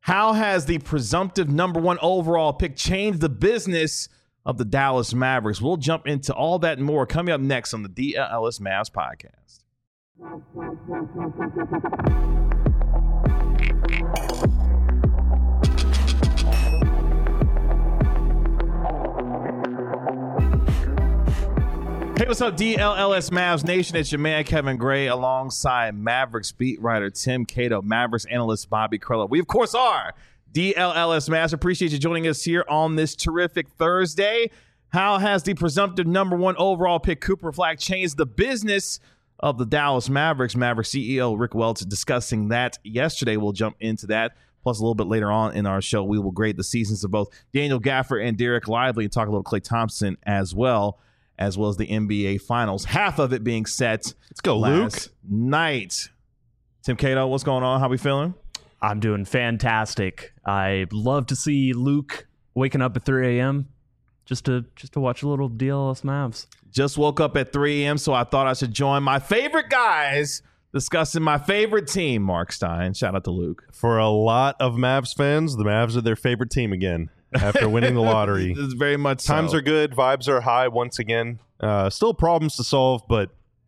How has the presumptive number one overall pick changed the business of the Dallas Mavericks? We'll jump into all that and more coming up next on the DLS Mavs podcast. Hey, what's up, DLS Mavs Nation? It's your man, Kevin Gray, alongside Mavericks beat writer Tim Cato, Mavericks analyst Bobby Krullo. We, of course, are DLS Mavs. Appreciate you joining us here on this terrific Thursday. How has the presumptive number one overall pick Cooper Flagg changed the business of the Dallas Mavericks? Mavericks CEO Rick Welts discussing that yesterday. We'll jump into that. Plus, a little bit later on in our show, we will grade the seasons of both Daniel Gafford and Derek Lively and talk a little Klay Thompson as well as the NBA Finals. Half of it being set. Let's go, Luke. Night. Tim Cato, what's going on? How we feeling? I'm doing fantastic. I love to see Luke waking up at 3 a.m. just to watch a little DLS Mavs. Just woke up at 3 a.m., so I thought I should join my favorite guys discussing my favorite team, Mark Stein. Shout out to Luke. For a lot of Mavs fans, the Mavs are their favorite team again after winning the lottery. This is very much so. Times are good. Vibes are high once again. Still problems to solve, but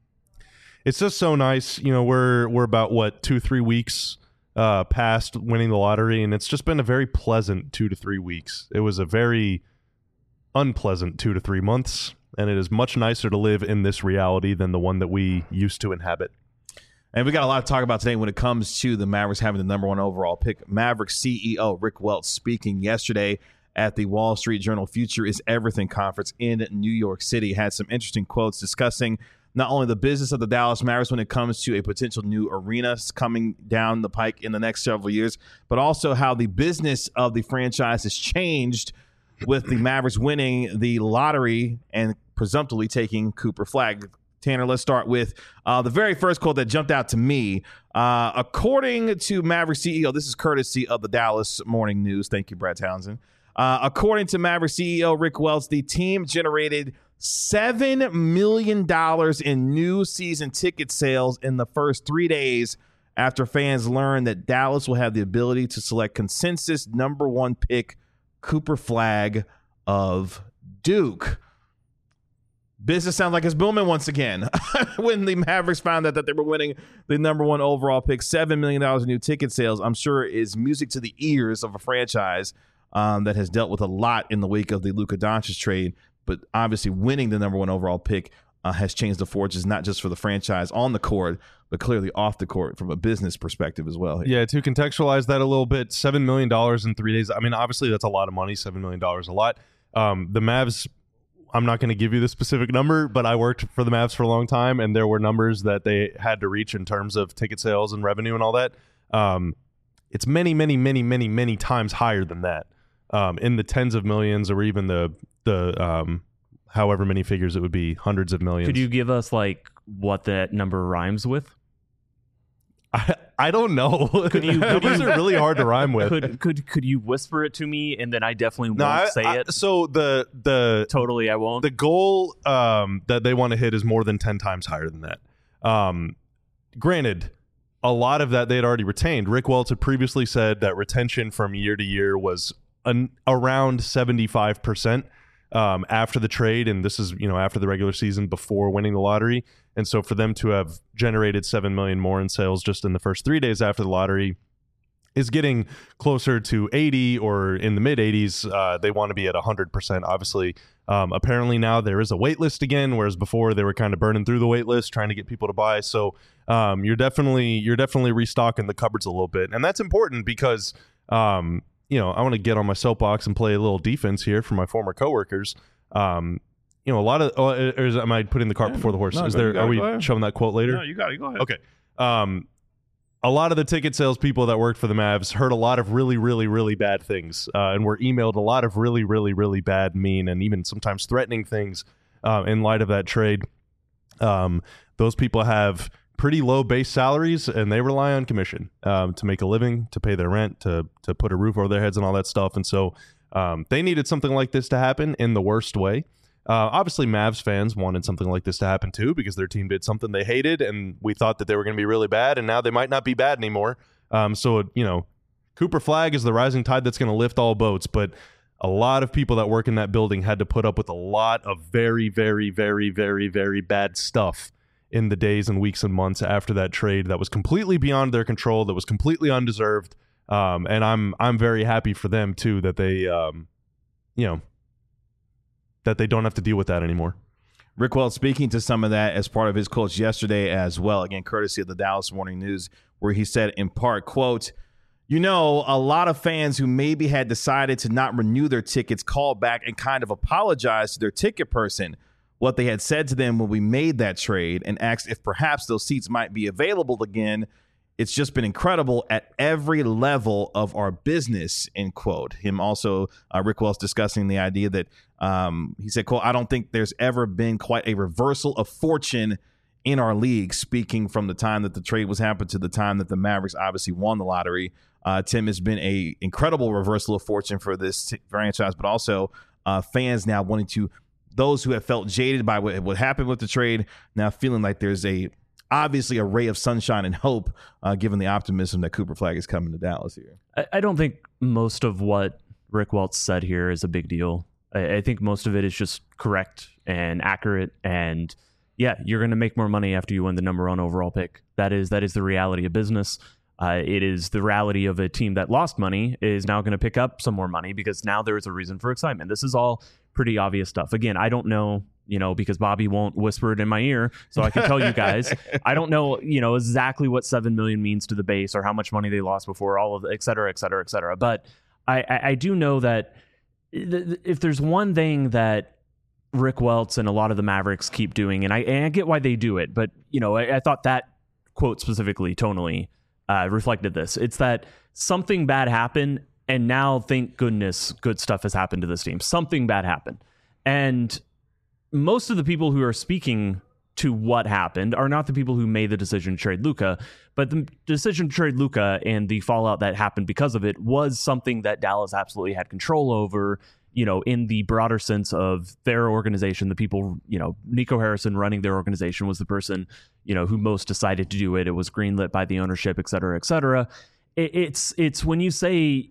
it's just so nice. You know, we're about, 2-3 weeks past winning the lottery, and it's just been a very pleasant 2 to 3 weeks. It was a very unpleasant 2 to 3 months, and it is much nicer to live in this reality than the one that we used to inhabit. And we got a lot to talk about today when it comes to the Mavericks having the number one overall pick. Mavericks CEO Rick Welts speaking yesterday at the Wall Street Journal Future is Everything conference in New York City. Had some interesting quotes discussing not only the business of the Dallas Mavericks when it comes to a potential new arena coming down the pike in the next several years, but also how the business of the franchise has changed with the Mavericks winning the lottery and presumptively taking Cooper Flagg. Tanner, let's start with the very first quote that jumped out to me. According to Maverick CEO, this is courtesy of the Dallas Morning News. Thank you, Brad Townsend. According to Maverick CEO Rick Welts, the team generated $7 million in new season ticket sales in the first 3 days after fans learned that Dallas will have the ability to select consensus number one pick Cooper Flagg of Duke. Business sounds like it's booming once again. When the Mavericks found out that they were winning the number one overall pick, $7 million in new ticket sales, I'm sure is music to the ears of a franchise that has dealt with a lot in the wake of the Luka Doncic trade. But obviously winning the number one overall pick has changed the fortunes, not just for the franchise on the court, but clearly off the court from a business perspective as well. Yeah, to contextualize that a little bit, $7 million in 3 days. I mean, obviously that's a lot of money. $7 million a lot. The Mavs, I'm not going to give you the specific number, but I worked for the Mavs for a long time, and there were numbers that they had to reach in terms of ticket sales and revenue and all that. It's many, many, many, many, many times higher than that, in the tens of millions, or even the however many figures it would be, hundreds of millions. Could you give us like what that number rhymes with? I don't know. Numbers are really hard to rhyme with. Could you whisper it to me, and then I definitely won't say it. So the totally I won't. The goal that they want to hit is more than 10 times higher than that. Granted, a lot of that they had already retained. Rick Welts had previously said that retention from year to year was around 75%. After the trade, and this is, after the regular season, before winning the lottery. And so for them to have generated $7 million more in sales just in the first 3 days after the lottery is getting closer to 80 or in the mid 80s. They want to be at 100%, obviously. Apparently now there is a wait list again, whereas before they were kind of burning through the wait list, trying to get people to buy. So you're definitely restocking the cupboards a little bit. And that's important because I want to get on my soapbox and play a little defense here for my former coworkers. A lot of, am I putting the cart before the horse? No, Are we showing that quote later? No, you got it. Go ahead. Okay. A lot of the ticket sales people that worked for the Mavs heard a lot of really, really, really bad things, and were emailed a lot of really, really, really bad, mean, and even sometimes threatening things in light of that trade. Those people have pretty low base salaries, and they rely on commission to make a living, to pay their rent, to put a roof over their heads and all that stuff. And so they needed something like this to happen in the worst way. Obviously, Mavs fans wanted something like this to happen too, because their team did something they hated, and we thought that they were going to be really bad, and now they might not be bad anymore. So Cooper Flagg is the rising tide that's going to lift all boats, but a lot of people that work in that building had to put up with a lot of very, very, very, very, very bad stuff in the days and weeks and months after that trade that was completely beyond their control, that was completely undeserved. And I'm very happy for them too that they that they don't have to deal with that anymore. Rick Welts speaking to some of that as part of his quotes yesterday as well, again, courtesy of the Dallas Morning News, where he said in part, quote, "You know, a lot of fans who maybe had decided to not renew their tickets called back and kind of apologized to their ticket person, what they had said to them when we made that trade, and asked if perhaps those seats might be available again. It's just been incredible at every level of our business," end quote. Him also, Rick Welts discussing the idea that he said, quote, "I don't think there's ever been quite a reversal of fortune in our league," speaking from the time that the trade was happened to the time that the Mavericks obviously won the lottery. Tim, has been a incredible reversal of fortune for this franchise, but also fans now wanting to, those who have felt jaded by what happened with the trade, now feeling like there's obviously a ray of sunshine and hope, given the optimism that Cooper Flagg is coming to Dallas here. I don't think most of what Rick Welts said here is a big deal. I think most of it is just correct and accurate. And yeah, you're going to make more money after you win the number 1 overall pick. That is the reality of business. It is the reality of a team that lost money is now going to pick up some more money because now there is a reason for excitement. This is all pretty obvious stuff. Again, I don't know, because Bobby won't whisper it in my ear, so I can tell you guys. I don't know, exactly what $7 million means to the base or how much money they lost before, all of it, et cetera, et cetera, et cetera. But I do know that if there's one thing that Rick Welts and a lot of the Mavericks keep doing, and I get why they do it, but I thought that quote specifically tonally reflected this. It's that something bad happened, and now thank goodness good stuff has happened to this team. Something bad happened, and most of the people who are speaking to what happened are not the people who made the decision to trade Luka, but the decision to trade Luka and the fallout that happened because of it was something that Dallas absolutely had control over, in the broader sense of their organization. The people, Nico Harrison running their organization was the person, who most decided to do it. It was greenlit by the ownership, et cetera, et cetera. It's when you say,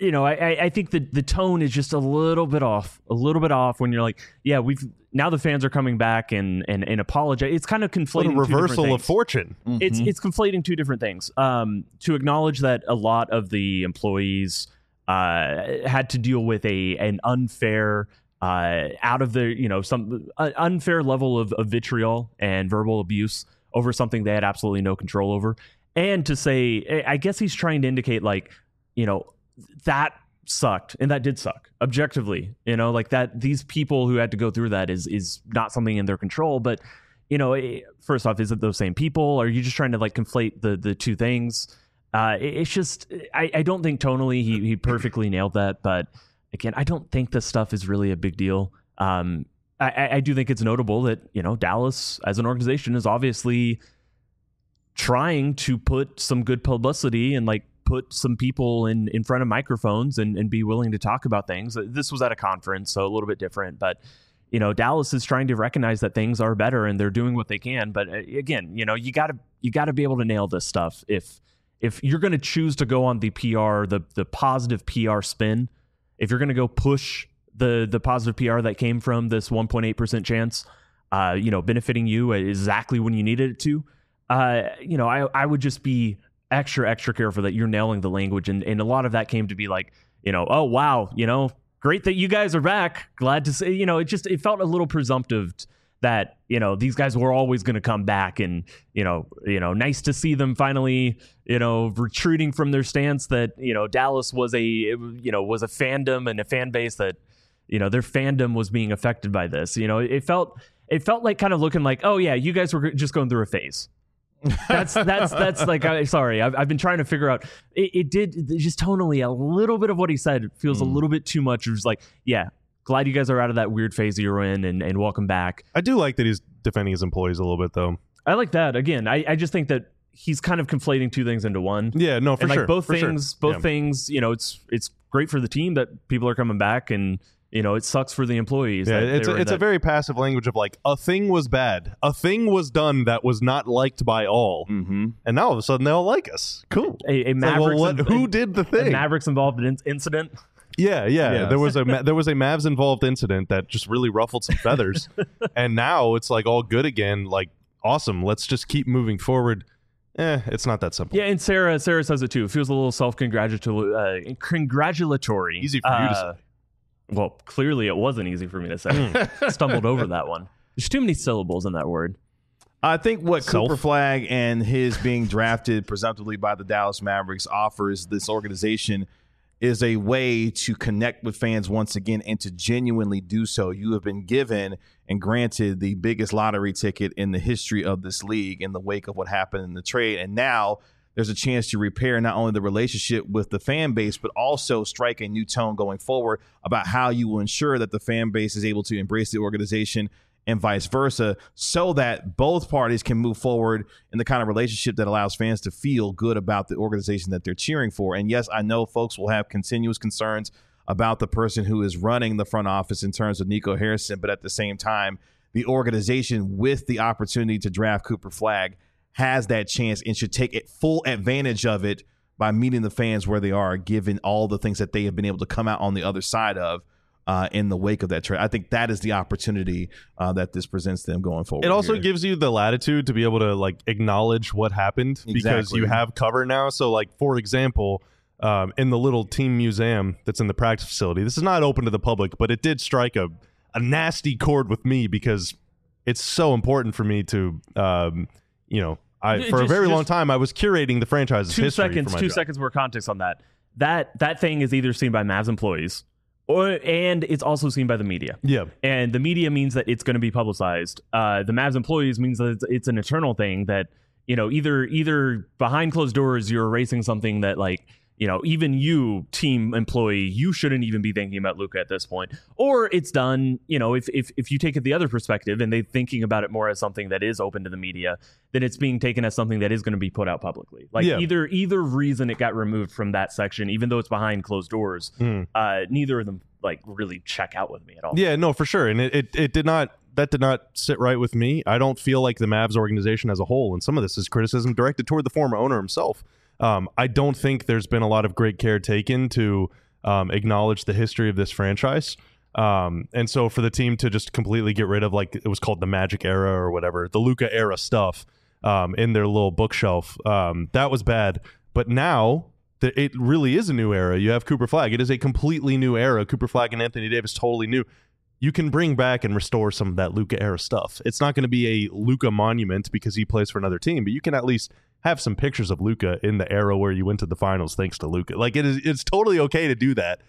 I think that the tone is just a little bit off when you're like, yeah, now the fans are coming back and apologize. It's kind of conflating. What a reversal of fortune. Mm-hmm. It's conflating two different things. To acknowledge that a lot of the employees had to deal with an unfair, out of the, some unfair level of vitriol and verbal abuse over something they had absolutely no control over. And to say, I guess he's trying to indicate that sucked, and that did suck objectively, that these people who had to go through that is not something in their control. But first off, is it those same people, or are you just trying to conflate the two things? It's just, I don't think tonally he perfectly nailed that, but again, I don't think this stuff is really a big deal. I do think it's notable that Dallas as an organization is obviously trying to put some good publicity and put some people in front of microphones and be willing to talk about things. This was at a conference, so a little bit different, but Dallas is trying to recognize that things are better and they're doing what they can. But again, you gotta be able to nail this stuff. If you're going to choose to go on the PR, the positive PR spin, if you're going to go push the positive PR that came from this 1.8% chance, benefiting you exactly when you needed it to, I would just be extra careful that you're nailing the language. And a lot of that came to be oh, wow, great that you guys are back. Glad to say, it felt a little presumptive that, these guys were always going to come back, and, nice to see them finally, retreating from their stance that, Dallas was a fandom and a fan base that, their fandom was being affected by this. It felt like kind of looking like, oh yeah, you guys were just going through a phase. That's sorry. I've been trying to figure out. It did just tonally a little bit of what he said feels a little bit too much. It was yeah, glad you guys are out of that weird phase you're in, and welcome back. I do like that he's defending his employees a little bit, though. I like that. Again, I just think that he's kind of conflating two things into one. Yeah, no, for sure. Both things, it's great for the team that people are coming back, and it sucks for the employees. Yeah, that it's a very passive language of like, a thing was bad. A thing was done that was not liked by all. Mm-hmm. And now all of a sudden they all like us. Cool. a It's like, Mavericks well, who did the a thing? Mavericks involved incident. Yeah. Yes. There was a Mavs involved incident that just really ruffled some feathers, and now it's like all good again. Like, awesome. Let's just keep moving forward. It's not that simple. Yeah, and Sarah says it too. It feels a little congratulatory. Easy for you to say. Well, clearly it wasn't easy for me to say. Stumbled over that one. There's too many syllables in that word. I think what Cooper Flagg and his being drafted presumptively by the Dallas Mavericks offers this organization is a way to connect with fans once again and to genuinely do so. You have been given and granted the biggest lottery ticket in the history of this league in the wake of what happened in the trade. And now there's a chance to repair not only the relationship with the fan base, but also strike a new tone going forward about how you will ensure that the fan base is able to embrace the organization and vice versa, so that both parties can move forward in the kind of relationship that allows fans to feel good about the organization that they're cheering for. And yes, I know folks will have continuous concerns about the person who is running the front office in terms of Nico Harrison, but at the same time, the organization with the opportunity to draft Cooper Flagg has that chance and should take full advantage of it by meeting the fans where they are, given all the things that they have been able to come out on the other side of in the wake of that trade. I think that is the opportunity that this presents them going forward. It also gives you the latitude to be able to like acknowledge what happened because you have cover now. So like, for example, in the little team museum that's in the practice facility, this is not open to the public, but it did strike a nasty chord with me because it's so important for me to, for a very long time, I was curating the franchise's history. Two seconds more context on that. That thing is either seen by Mavs employees and it's also seen by the media. Yeah. And the media means that it's going to be publicized. The Mavs employees means that it's an eternal thing that, either behind closed doors, you're erasing something that like, even you, team employee, you shouldn't even be thinking about Luka at this point. Or it's done, if you take it the other perspective and they're thinking about it more as something that is open to the media, then it's being taken as something that is going to be put out publicly. Like either reason it got removed from that section, even though it's behind closed doors, neither of them like really check out with me at all. Yeah, no, for sure. And it did not sit right with me. I don't feel like the Mavs organization as a whole, and some of this is criticism directed toward the former owner himself. I don't think there's been a lot of great care taken to acknowledge the history of this franchise. And so for the team to just completely get rid of, like, it was called the Magic era or whatever, the Luka era stuff in their little bookshelf, that was bad. But now it really is a new era. You have Cooper Flagg. It is a completely new era. Cooper Flagg and Anthony Davis, totally new. You can bring back and restore some of that Luka era stuff. It's not going to be a Luka monument because he plays for another team, but you can at least have some pictures of Luka in the era where you went to the finals thanks to Luka. Like, it's totally okay to do that.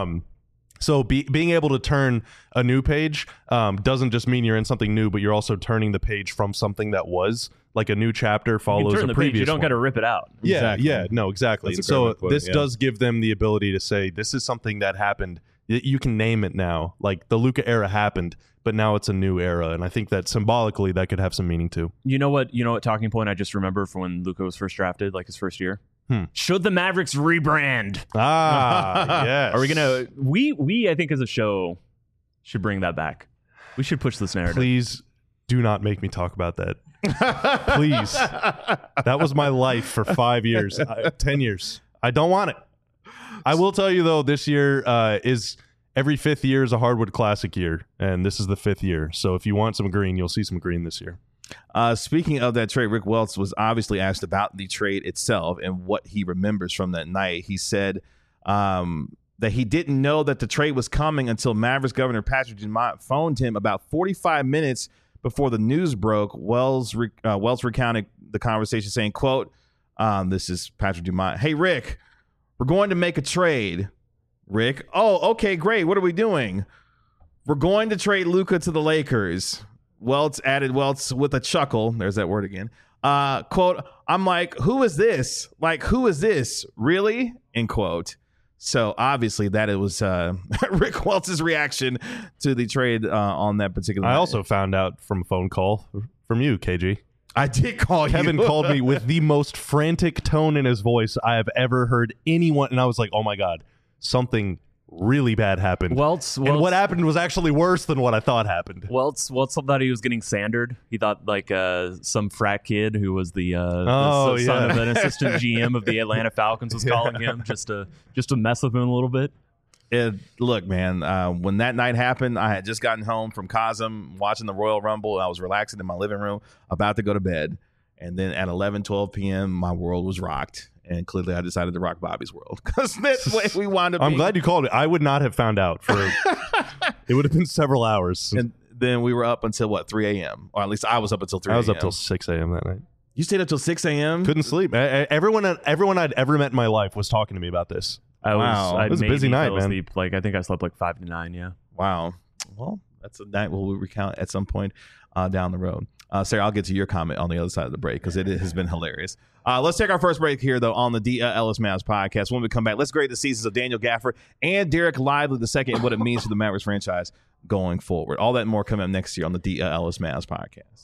So being able to turn a new page doesn't just mean you're in something new, but you're also turning the page from something that was like a new chapter follows a previous page, you don't got to rip it out. Yeah, exactly. So this does give them the ability to say, this is something that happened. You can name it now. Like, the Luka era happened, but now it's a new era. And I think that symbolically that could have some meaning too. You know what talking point I just remember from when Luka was first drafted, like his first year? Should the Mavericks rebrand? Yes. Are we gonna we I think as a show should bring that back. We should push this narrative. Please do not make me talk about that. Please. That was my life for 5 years, 10 years. I don't want it. I will tell you though, this year is every 5th year is a Hardwood Classic year, and this is the 5th year. So if you want some green, you'll see some green this year. Speaking of that trade, Rick Welts was obviously asked about the trade itself and what he remembers from that night. He said that he didn't know that the trade was coming until Mavericks governor Patrick Dumont phoned him about 45 minutes before the news broke. Wells recounted the conversation saying, quote, this is Patrick Dumont, "Hey, Rick, we're going to make a trade." Rick, "Oh, okay, great. What are we doing?" "We're going to trade Luka to the Lakers." Welts with a chuckle. There's that word again. Quote, "I'm like, who is this? Like, who is this? Really?" End quote. So obviously that it was Rick Welts' reaction to the trade on that particular night. I also found out from a phone call from you, KG. I did call you. Kevin called me with the most frantic tone in his voice I have ever heard anyone. And I was like, oh my God, something really bad happened. And what happened was actually worse than what I thought happened. Welts thought he was getting sandered. He thought like some frat kid who was the son of an assistant GM of the Atlanta Falcons was calling him just to mess with him a little bit. Look, man, when that night happened, I had just gotten home from Cosm watching the Royal Rumble. I was relaxing in my living room, about to go to bed. And then at 12 p.m., my world was rocked. And clearly I decided to rock Bobby's world because that's what we wound up I'm glad you called it. I would not have found out. It would have been several hours. And then we were up until, 3 a.m.? Or at least I was up until 3 a.m. I was up till 6 a.m. that night. You stayed up till 6 a.m.? Couldn't sleep. Everyone I'd ever met in my life was talking to me about this. It was a busy night, man. Asleep, I think I slept 5 to 9, yeah. Wow. Well, that's a night we'll recount at some point down the road. Sarah, I'll get to your comment on the other side of the break because it has been hilarious. Let's take our first break here, though, on the DLS Mavs podcast. When we come back, let's grade the seasons of Daniel Gafford and Derek Lively II and what it means for the Mavericks franchise going forward. All that and more coming up next year on the DLS Mavs podcast.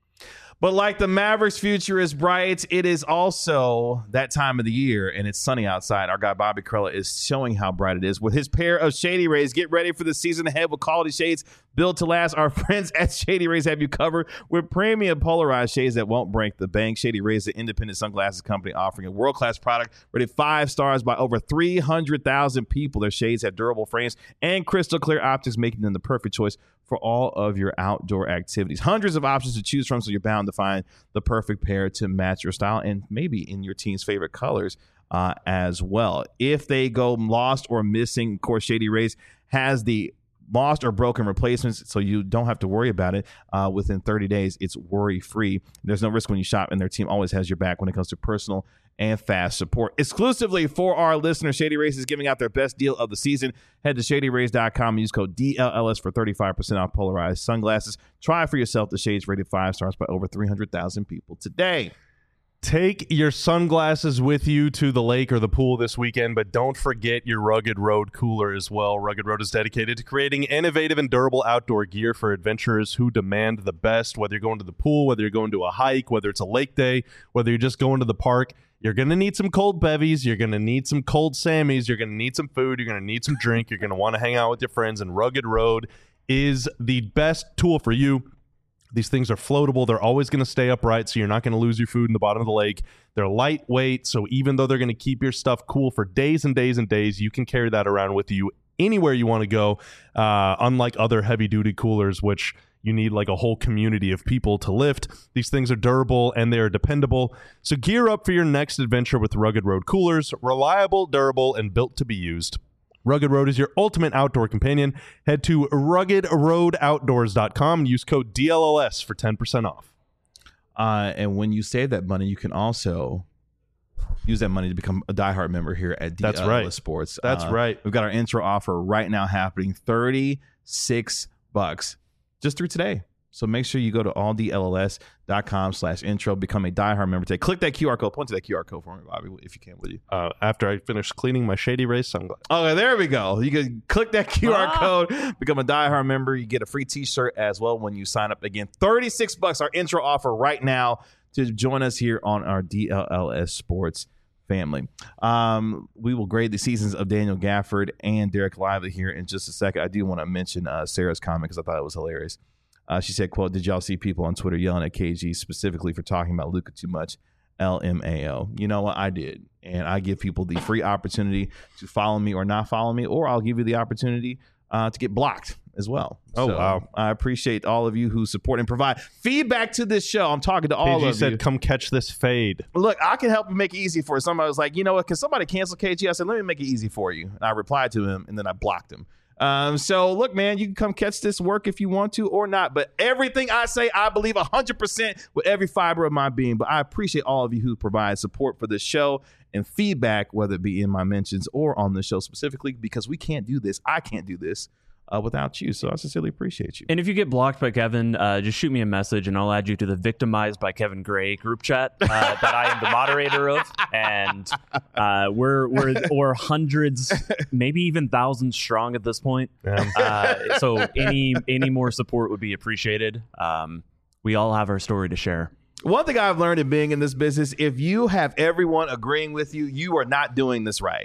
But like the Mavericks' future is bright, it is also that time of the year, and it's sunny outside. Our guy Bobby Karalla is showing how bright it is with his pair of Shady Rays. Get ready for the season ahead with quality shades built to last. Our friends at Shady Rays have you covered with premium polarized shades that won't break the bank. Shady Rays, the independent sunglasses company offering a world-class product rated 5 stars by over 300,000 people. Their shades have durable frames and crystal clear optics, making them the perfect choice for all of your outdoor activities. Hundreds of options to choose from, so you're bound to find the perfect pair to match your style and maybe in your team's favorite colors as well. If they go lost or missing, of course, Shady Rays has the lost or broken replacements, so you don't have to worry about it. Within 30 days, it's worry-free. There's no risk when you shop, and their team always has your back when it comes to personal and fast support. Exclusively for our listeners, Shady Rays is giving out their best deal of the season. Head to shadyrays.com and use code DLLS for 35% off polarized sunglasses. Try for yourself the shades rated 5 stars by over 300,000 people today. Take your sunglasses with you to the lake or the pool this weekend, but don't forget your Rugged Road cooler as well. Rugged Road is dedicated to creating innovative and durable outdoor gear for adventurers who demand the best. Whether you're going to the pool, whether you're going to a hike, whether it's a lake day, whether you're just going to the park, you're going to need some cold bevies. You're going to need some cold Sammies. You're going to need some food. You're going to need some drink. You're going to want to hang out with your friends, and Rugged Road is the best tool for you. These things are floatable. They're always going to stay upright, so you're not going to lose your food in the bottom of the lake. They're lightweight, so even though they're going to keep your stuff cool for days and days and days, you can carry that around with you anywhere you want to go, unlike other heavy-duty coolers, which you need like a whole community of people to lift. These things are durable and they are dependable. So gear up for your next adventure with Rugged Road coolers. Reliable, durable, and built to be used. Rugged Road is your ultimate outdoor companion. Head to ruggedroadoutdoors.com and use code DLLS for 10% off. And when you save that money, you can also use that money to become a diehard member here at DLLS Sports. That's right. We've got our intro offer right now happening, $36 just through today. So make sure you go to alldlls.com/intro, become a diehard member today. Click that QR code. Point to that QR code for me, Bobby, if you can, will you? After I finish cleaning my Shady Rays sunglasses. Okay, there we go. You can click that QR code, become a diehard member. You get a free t-shirt as well when you sign up. Again, $36, our intro offer right now to join us here on our DLLS Sports family. We will grade the seasons of Daniel Gafford and Derek Lively here in just a second. I do want to mention Sarah's comment because I thought it was hilarious. She said, quote, "Did y'all see people on Twitter yelling at KG specifically for talking about Luka too much? LMAO. You know what? I did. And I give people the free opportunity to follow me or not follow me, or I'll give you the opportunity to get blocked as well. Oh, so, wow. I appreciate all of you who support and provide feedback to this show. I'm talking to all of you. KG said, come catch this fade. Look, I can help you make it easy for you. Somebody was like, you know what? Can somebody cancel KG? I said, let me make it easy for you. And I replied to him, and then I blocked him. So look, man, you can come catch this work if you want to or not, but everything I say, I believe 100% with every fiber of my being. But I appreciate all of you who provide support for this show and feedback, whether it be in my mentions or on the show specifically, because we can't do this. I can't do this without you. So I sincerely appreciate you. And if you get blocked by Kevin, just shoot me a message and I'll add you to the Victimized by Kevin Gray group chat that I am the moderator of. And we're hundreds, maybe even thousands strong at this point. So any more support would be appreciated. We all have our story to share. One thing I've learned in being in this business, if you have everyone agreeing with you, you are not doing this right.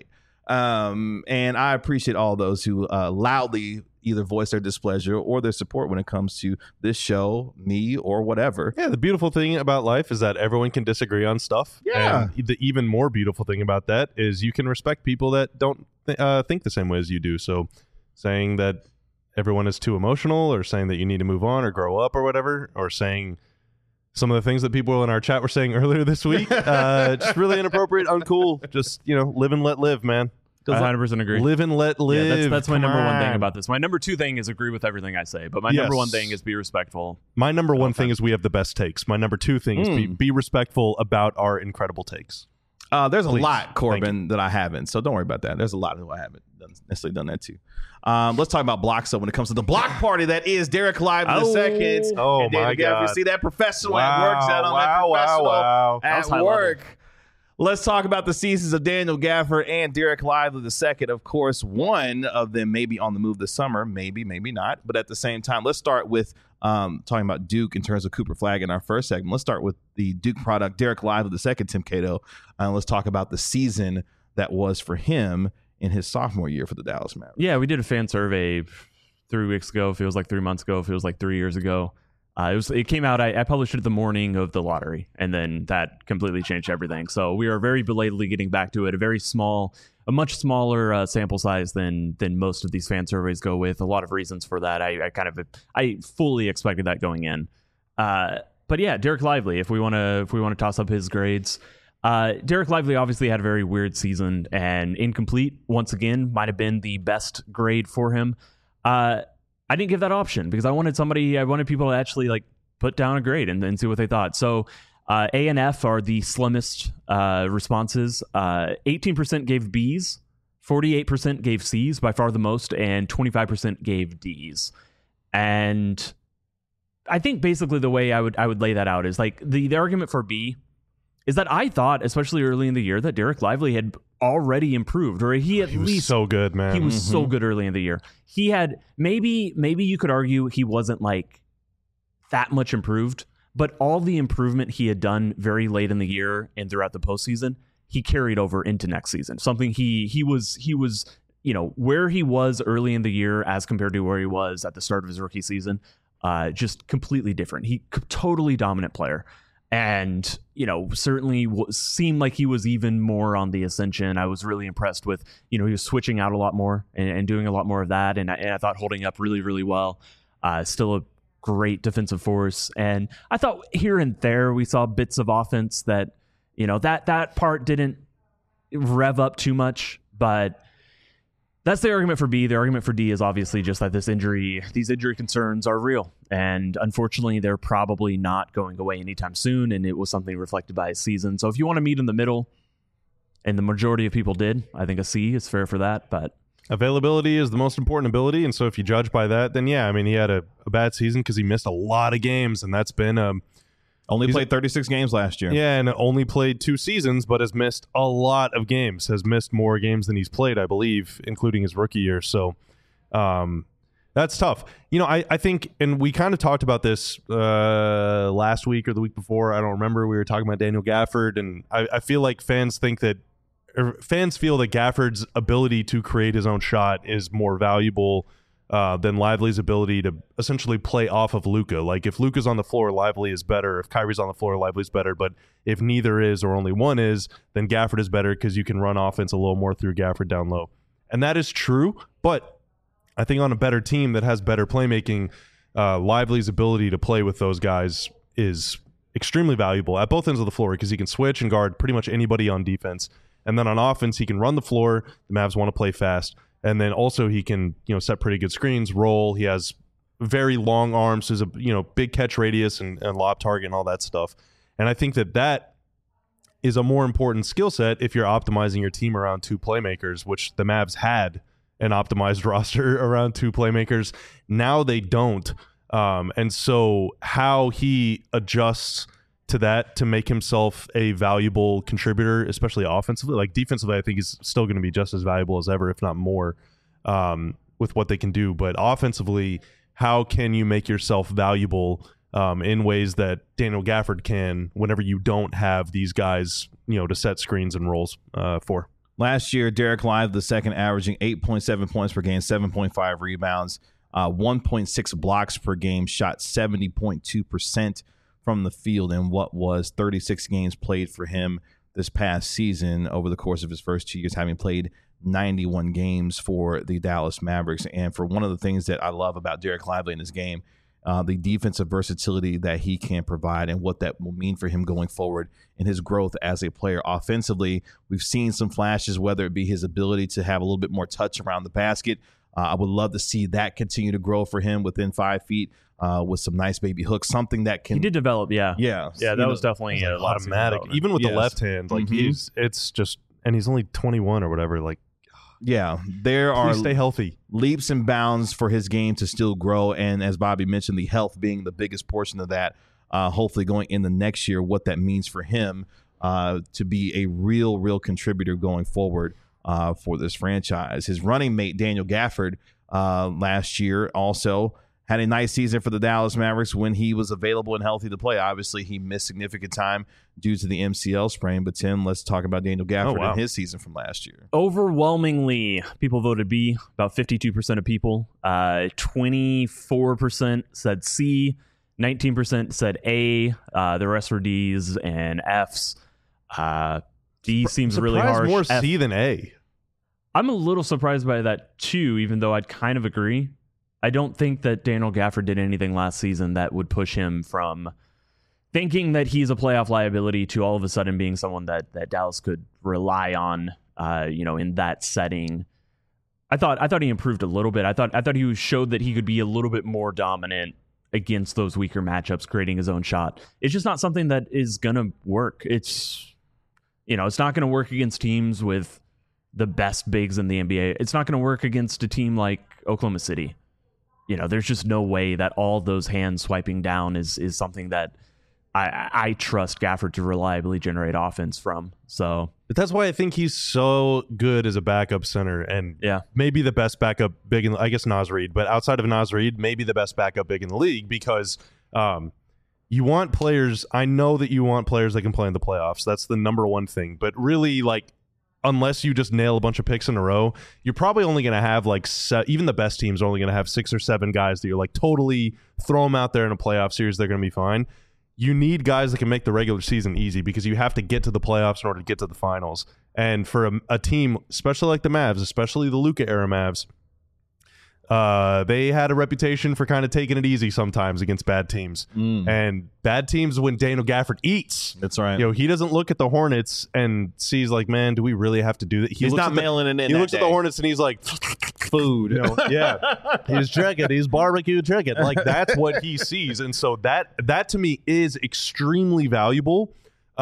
And I appreciate all those who loudly either voice their displeasure or their support when it comes to this show, me, or whatever. Yeah, the beautiful thing about life is that everyone can disagree on stuff. Yeah. And the even more beautiful thing about that is you can respect people that don't think the same way as you do. So saying that everyone is too emotional, or saying that you need to move on or grow up or whatever, or saying some of the things that people in our chat were saying earlier this week, just really inappropriate, uncool. Just, live and let live, man. I 100% agree. Live and let live. Yeah, that's my Come number one thing on. about this. My number two thing is agree with everything I say, but my number one thing is be respectful. My number one thing is we have the best takes. My number two thing is be respectful about our incredible takes. There's Please. a lot, Corbin, that I haven't, so don't worry about that. There's a lot who I haven't necessarily done that too. Let's talk about blocks. So when it comes to the block party, that is Derek Lively II. Oh, and my God. You see that professional Wow, at work, gentlemen. Professional wow. That was at high work. level. Let's talk about the seasons of Daniel Gafford and Derek Lively II. Of course, one of them may be on the move this summer, maybe not. But at the same time, let's start with talking about Duke in terms of Cooper Flagg in our first segment. Let's start with the Duke product, Derek Lively II, Tim Cato. Let's talk about the season that was for him in his sophomore year for the Dallas Mavericks. Yeah, we did a fan survey 3 weeks ago. Feels like 3 months ago. Feels like 3 years ago. It came out. I published it the morning of the lottery, and then that completely changed everything. So we are very belatedly getting back to it. A much smaller sample size than most of these fan surveys go with. A lot of reasons for that. I fully expected that going in. But yeah, Derek Lively. If we want to toss up his grades, Derek Lively obviously had a very weird season, and incomplete once again might have been the best grade for him. I didn't give that option because I wanted people to actually like put down a grade and then see what they thought. So A and F are the slimmest responses. 18% gave Bs, 48% gave Cs, by far the most, and 25% gave Ds. And I think basically the way I would lay that out is like the argument for B is that I thought, especially early in the year, that Derek Lively had already improved, or he was so good, man. He was so good early in the year. He had maybe you could argue he wasn't like that much improved, but all the improvement he had done very late in the year and throughout the postseason, he carried over into next season. Something he was where he was early in the year as compared to where he was at the start of his rookie season, just completely different. Totally dominant player. And, certainly seemed like he was even more on the ascension. I was really impressed with, he was switching out a lot more and doing a lot more of that. And I thought holding up really, really well. Still a great defensive force. And I thought here and there we saw bits of offense that, that part didn't rev up too much. But that's the argument for B. The argument for D is obviously just that these injury concerns are real. And unfortunately, they're probably not going away anytime soon. And it was something reflected by his season. So if you want to meet in the middle, and the majority of people did, I think a C is fair for that. But availability is the most important ability. And so if you judge by that, then yeah, I mean, he had a bad season because he missed a lot of games. And that's been only played 36 games last year. Yeah, and only played 2 seasons, but has missed a lot of games. Has missed more games than he's played, I believe, including his rookie year. So that's tough. I think, and we kind of talked about this last week or the week before. I don't remember. We were talking about Daniel Gafford, and I feel like fans feel that Gafford's ability to create his own shot is more valuable than Lively's ability to essentially play off of Luka. Like if Luka's on the floor, Lively is better. If Kyrie's on the floor, Lively's better. But if neither is or only one is, then Gafford is better because you can run offense a little more through Gafford down low. And that is true. But I think on a better team that has better playmaking, Lively's ability to play with those guys is extremely valuable at both ends of the floor because he can switch and guard pretty much anybody on defense. And then on offense, he can run the floor. The Mavs want to play fast. And then also he can, set pretty good screens, roll. He has very long arms. There's a, big catch radius and lob target and all that stuff. And I think that is a more important skill set if you're optimizing your team around 2 playmakers, which the Mavs had an optimized roster around 2 playmakers. Now they don't. And so how he adjusts to that to make himself a valuable contributor, especially offensively. Like defensively, I think he's still going to be just as valuable as ever, if not more, with what they can do. But offensively, how can you make yourself valuable in ways that Daniel Gafford can whenever you don't have these guys, to set screens and rolls for? Last year, Derek Lively II averaging 8.7 points per game, 7.5 rebounds, 1.6 blocks per game, shot 70.2% from the field in what was 36 games played for him this past season over the course of his first 2 years, having played 91 games for the Dallas Mavericks. And for one of the things that I love about Derek Lively in his game, the defensive versatility that he can provide and what that will mean for him going forward in his growth as a player. Offensively, we've seen some flashes, whether it be his ability to have a little bit more touch around the basket. I would love to see that continue to grow for him within 5 feet with some nice baby hooks, something that can... He did develop, yeah. Yeah. Yeah, that was definitely a lot of automatic. Even with the left hand, like it's just... And he's only 21 or whatever, like... Yeah, there are stay healthy. Leaps and bounds for his game to still grow. And as Bobby mentioned, the health being the biggest portion of that, hopefully going in the next year, what that means for him to be a real contributor going forward for this franchise. His running mate, Daniel Gafford, last year also had a nice season for the Dallas Mavericks when he was available and healthy to play. Obviously, he missed significant time due to the MCL sprain. But, Tim, let's talk about Daniel Gafford and his season from last year. Overwhelmingly, people voted B, about 52% of people. 24% said C, 19% said A. The rest were D's and F's. D seems really harsh. More C than A. I'm a little surprised by that, too, even though I'd kind of agree. I don't think that Daniel Gafford did anything last season that would push him from thinking that he's a playoff liability to all of a sudden being someone that Dallas could rely on, in that setting. I thought he improved a little bit. I thought he showed that he could be a little bit more dominant against those weaker matchups, creating his own shot. It's just not something that is going to work. It's not going to work against teams with the best bigs in the NBA. It's not going to work against a team like Oklahoma City. There's just no way that all those hands swiping down is something that I trust Gafford to reliably generate offense from. So, but that's why I think he's so good as a backup center, and maybe the best backup big in, I guess, Naz Reid, but outside of Naz Reid, maybe the best backup big in the league, because you want players. I know that you want players that can play in the playoffs. That's the number one thing. But really, unless you just nail a bunch of picks in a row, you're probably only going to have even the best teams are only going to have 6 or 7 guys that you're totally throw them out there in a playoff series. They're going to be fine. You need guys that can make the regular season easy, because you have to get to the playoffs in order to get to the finals. And for a team, especially like the Mavs, especially the Luka era Mavs, they had a reputation for kind of taking it easy sometimes against bad teams. And bad teams when Daniel Gafford eats. That's right. He doesn't look at the Hornets and sees man, do we really have to do that? He's not mailing it in. He looks at the Hornets and he's like, food. He's chicken. He's barbecue chicken. That's what he sees. And so that to me is extremely valuable.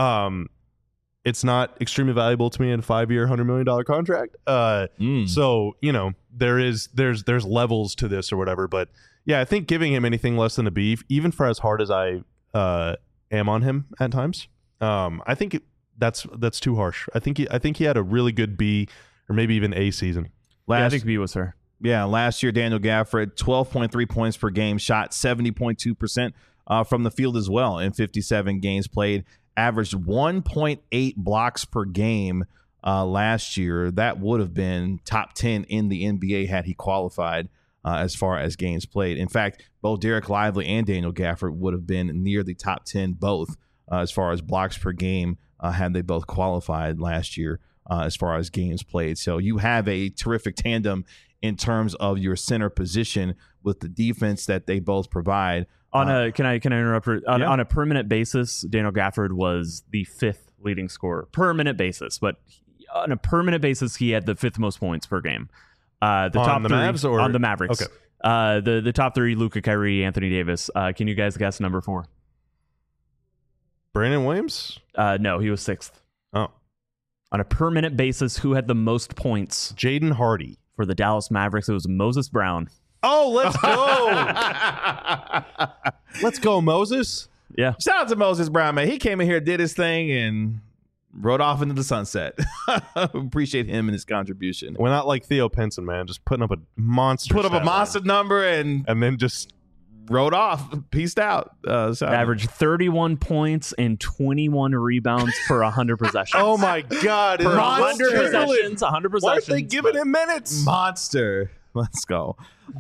It's not extremely valuable to me in a 5-year, $100 million contract. So, there's levels to this or whatever. But yeah, I think giving him anything less than a B, even for as hard as I am on him at times, I think that's too harsh. I think he had a really good B or maybe even A season. I think B was fair. Yeah, last year, Daniel Gafford, 12.3 points per game, shot 70.2% from the field as well in 57 games played. Averaged 1.8 blocks per game last year. That would have been top 10 in the NBA had he qualified as far as games played. In fact, both Derek Lively and Daniel Gafford would have been near the top 10 both as far as blocks per game had they both qualified last year as far as games played. So you have a terrific tandem in terms of your center position with the defense that they both provide. Can I interrupt? On a permanent basis, Daniel Gafford was the 5th leading scorer. Permanent basis, but on a permanent basis, he had the 5th most points per game. The top 3 Mavs or on the Mavericks. Okay. The top 3: Luka, Kyrie, Anthony Davis. Can you guys guess number 4? Brandon Williams? No, he was 6th. Oh, on a permanent basis, who had the most points? Jaden Hardy for the Dallas Mavericks. It was Moses Brown. Oh, let's go. Let's go, Moses. Yeah. Shout out to Moses Brown, man. He came in here, did his thing, and rode off into the sunset. Appreciate him and his contribution. We're not like Theo Pinson, man. Just putting up a monster. Put up a monster number and then just rode off, peaced out. Averaged 31 points and 21 rebounds per 100 possessions. Oh my God! Per 100 possessions, 100 possessions. Why aren't they giving him minutes? Monster. Let's go.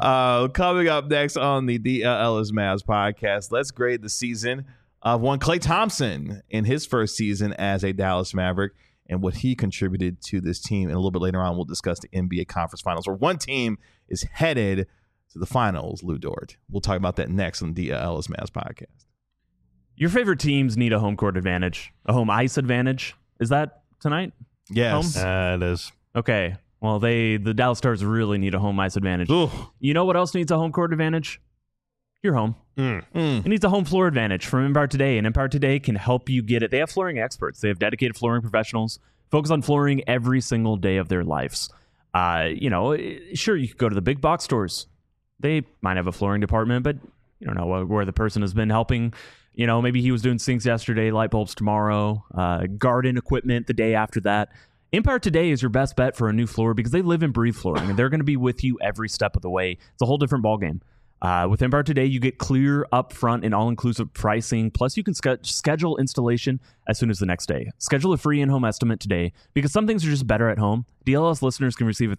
Coming up next on the DLS Mavs podcast, let's grade the season of one Klay Thompson in his first season as a Dallas Maverick and what he contributed to this team. And a little bit later on, we'll discuss the NBA Conference Finals, where one team is headed to the finals, Lou Dort. We'll talk about that next on the DLS Mavs podcast. Your favorite teams need a home court advantage, a home ice advantage. Is that tonight? Yes. It is. Okay. Well, the Dallas Stars really need a home ice advantage. Ooh. You know what else needs a home court advantage? Your home. It needs a home floor advantage from Empire Today, and Empire Today can help you get it. They have flooring experts. They have dedicated flooring professionals, focus on flooring every single day of their lives. Sure, you could go to the big box stores. They might have a flooring department, but you don't know where the person has been helping. Maybe he was doing sinks yesterday, light bulbs tomorrow, garden equipment the day after that. Empire Today is your best bet for a new floor because they live and breathe flooring, and they're going to be with you every step of the way. It's a whole different ballgame. With Empire Today, you get clear, upfront, and all-inclusive pricing. Plus, you can schedule installation as soon as the next day. Schedule a free in-home estimate today because some things are just better at home. DLS listeners can receive a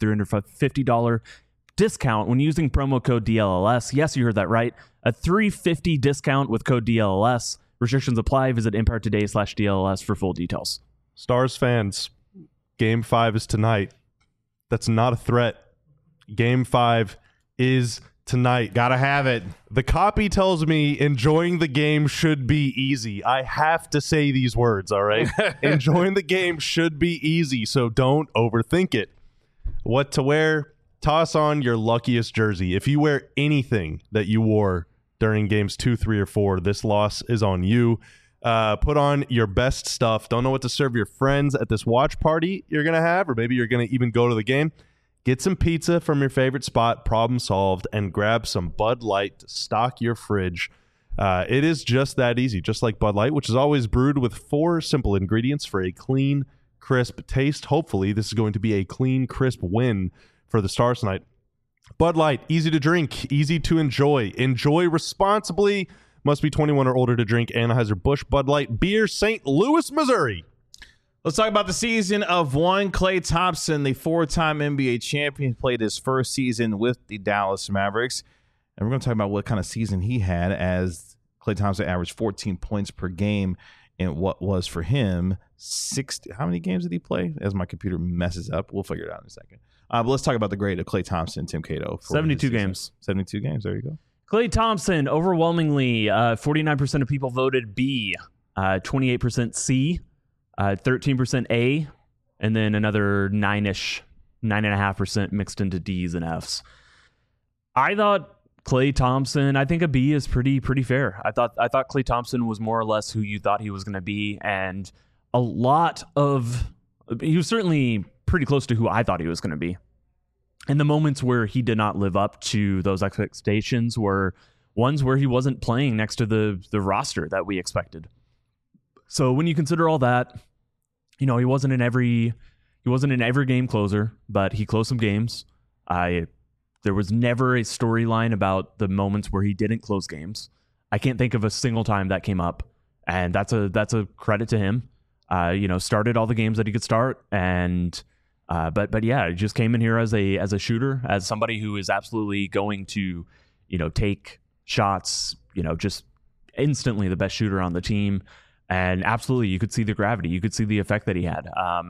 $350 discount when using promo code DLLS. Yes, you heard that right. A $350 discount with code DLLS. Restrictions apply. Visit EmpireToday/DLLS for full details. Stars fans, Game 5 is tonight. That's not a threat. Game 5 is tonight. Gotta have it. The copy tells me enjoying the game should be easy. I have to say these words, all right? Enjoying the game should be easy, so don't overthink it. What to wear? Toss on your luckiest jersey. If you wear anything that you wore during games 2, 3, or 4, this loss is on you. Put on your best stuff. Don't know what to serve your friends at this watch party you're going to have, or maybe you're going to even go to the game. Get some pizza from your favorite spot, problem solved, and grab some Bud Light to stock your fridge. It is just that easy, just like Bud Light, which is always brewed with 4 simple ingredients for a clean, crisp taste. Hopefully, this is going to be a clean, crisp win for the Stars tonight. Bud Light, easy to drink, easy to enjoy. Enjoy responsibly. Must be 21 or older to drink Anheuser-Busch Bud Light Beer, St. Louis, Missouri. Let's talk about the season of one Klay Thompson, the 4-time NBA champion, played his first season with the Dallas Mavericks. And we're going to talk about what kind of season he had, as Klay Thompson averaged 14 points per game in what was for him 60. How many games did he play? As my computer messes up, we'll figure it out in a second. But let's talk about the grade of Klay Thompson, Tim Cato. 72 games. 72 games. There you go. Klay Thompson, overwhelmingly, 49% of people voted B, 28% C, 13% A, and then another 9.5% mixed into D's and F's. I thought Klay Thompson, I think a B is pretty fair. I thought Klay Thompson was more or less who you thought he was going to be, and he was certainly pretty close to who I thought he was going to be. And the moments where he did not live up to those expectations were ones where he wasn't playing next to the roster that we expected. So when you consider all that, he wasn't in every game closer, but he closed some games. There was never a storyline about the moments where he didn't close games. I can't think of a single time that came up, and that's a credit to him. Started all the games that he could start, and but yeah, he just came in here as a shooter, as somebody who is absolutely going to, take shots, just instantly the best shooter on the team. And absolutely, you could see the gravity. You could see the effect that he had.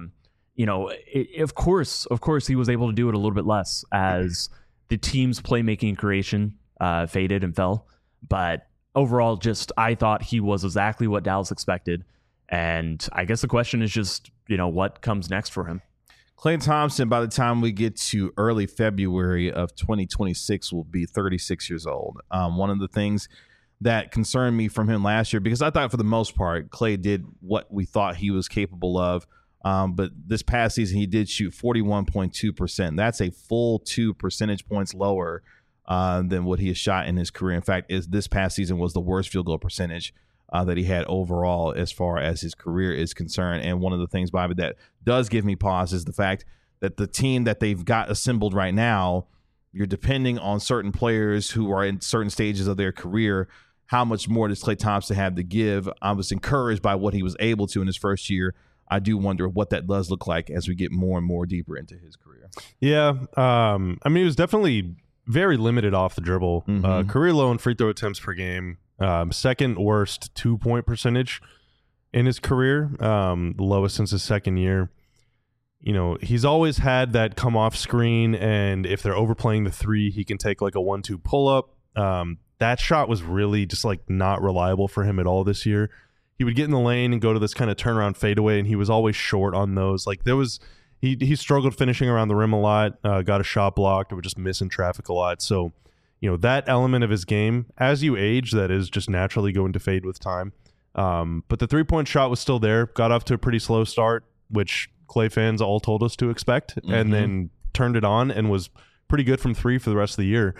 Of course, he was able to do it a little bit less as the team's playmaking and creation faded and fell. But overall, I thought he was exactly what Dallas expected. And I guess the question is just, what comes next for him? Klay Thompson, by the time we get to early February of 2026, will be 36 years old. One of the things that concerned me from him last year, because I thought for the most part, Klay did what we thought he was capable of. But this past season, he did shoot 41.2%. That's a full 2 percentage points lower than what he has shot in his career. In fact, this past season was the worst field goal percentage that he had overall as far as his career is concerned. And one of the things, Bobby, that does give me pause is the fact that the team that they've got assembled right now you're depending on certain players who are in certain stages of their career. How much more does Klay Thompson have to give? I was encouraged by what he was able to in his first year. I do wonder what that does look like as we get more and more deeper into his career. Yeah. I mean, he was definitely very limited off the dribble. Career low in free throw attempts per game. Second worst 2-point percentage in his career. The lowest since his second year. You know, he's always had that come off screen, and if they're overplaying the three, he can take like a 1-2 pull up. That shot was really just like not reliable for him at all this year. He would get in the lane and go to this kind of turnaround fadeaway, and he was always short on those. Like he struggled finishing around the rim a lot, got a shot blocked, or would just miss in traffic a lot. So, you know, that element of his game, as you age, that is just naturally going to fade with time. But the 3-point shot was still there, got off to a pretty slow start, which Klay fans all told us to expect, and then turned it on and was pretty good from three for the rest of the year.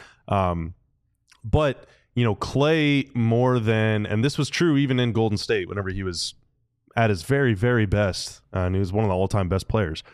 But, you know, Klay more than, and this was true even in Golden State whenever he was at his very, very best, and he was one of the all-time best players.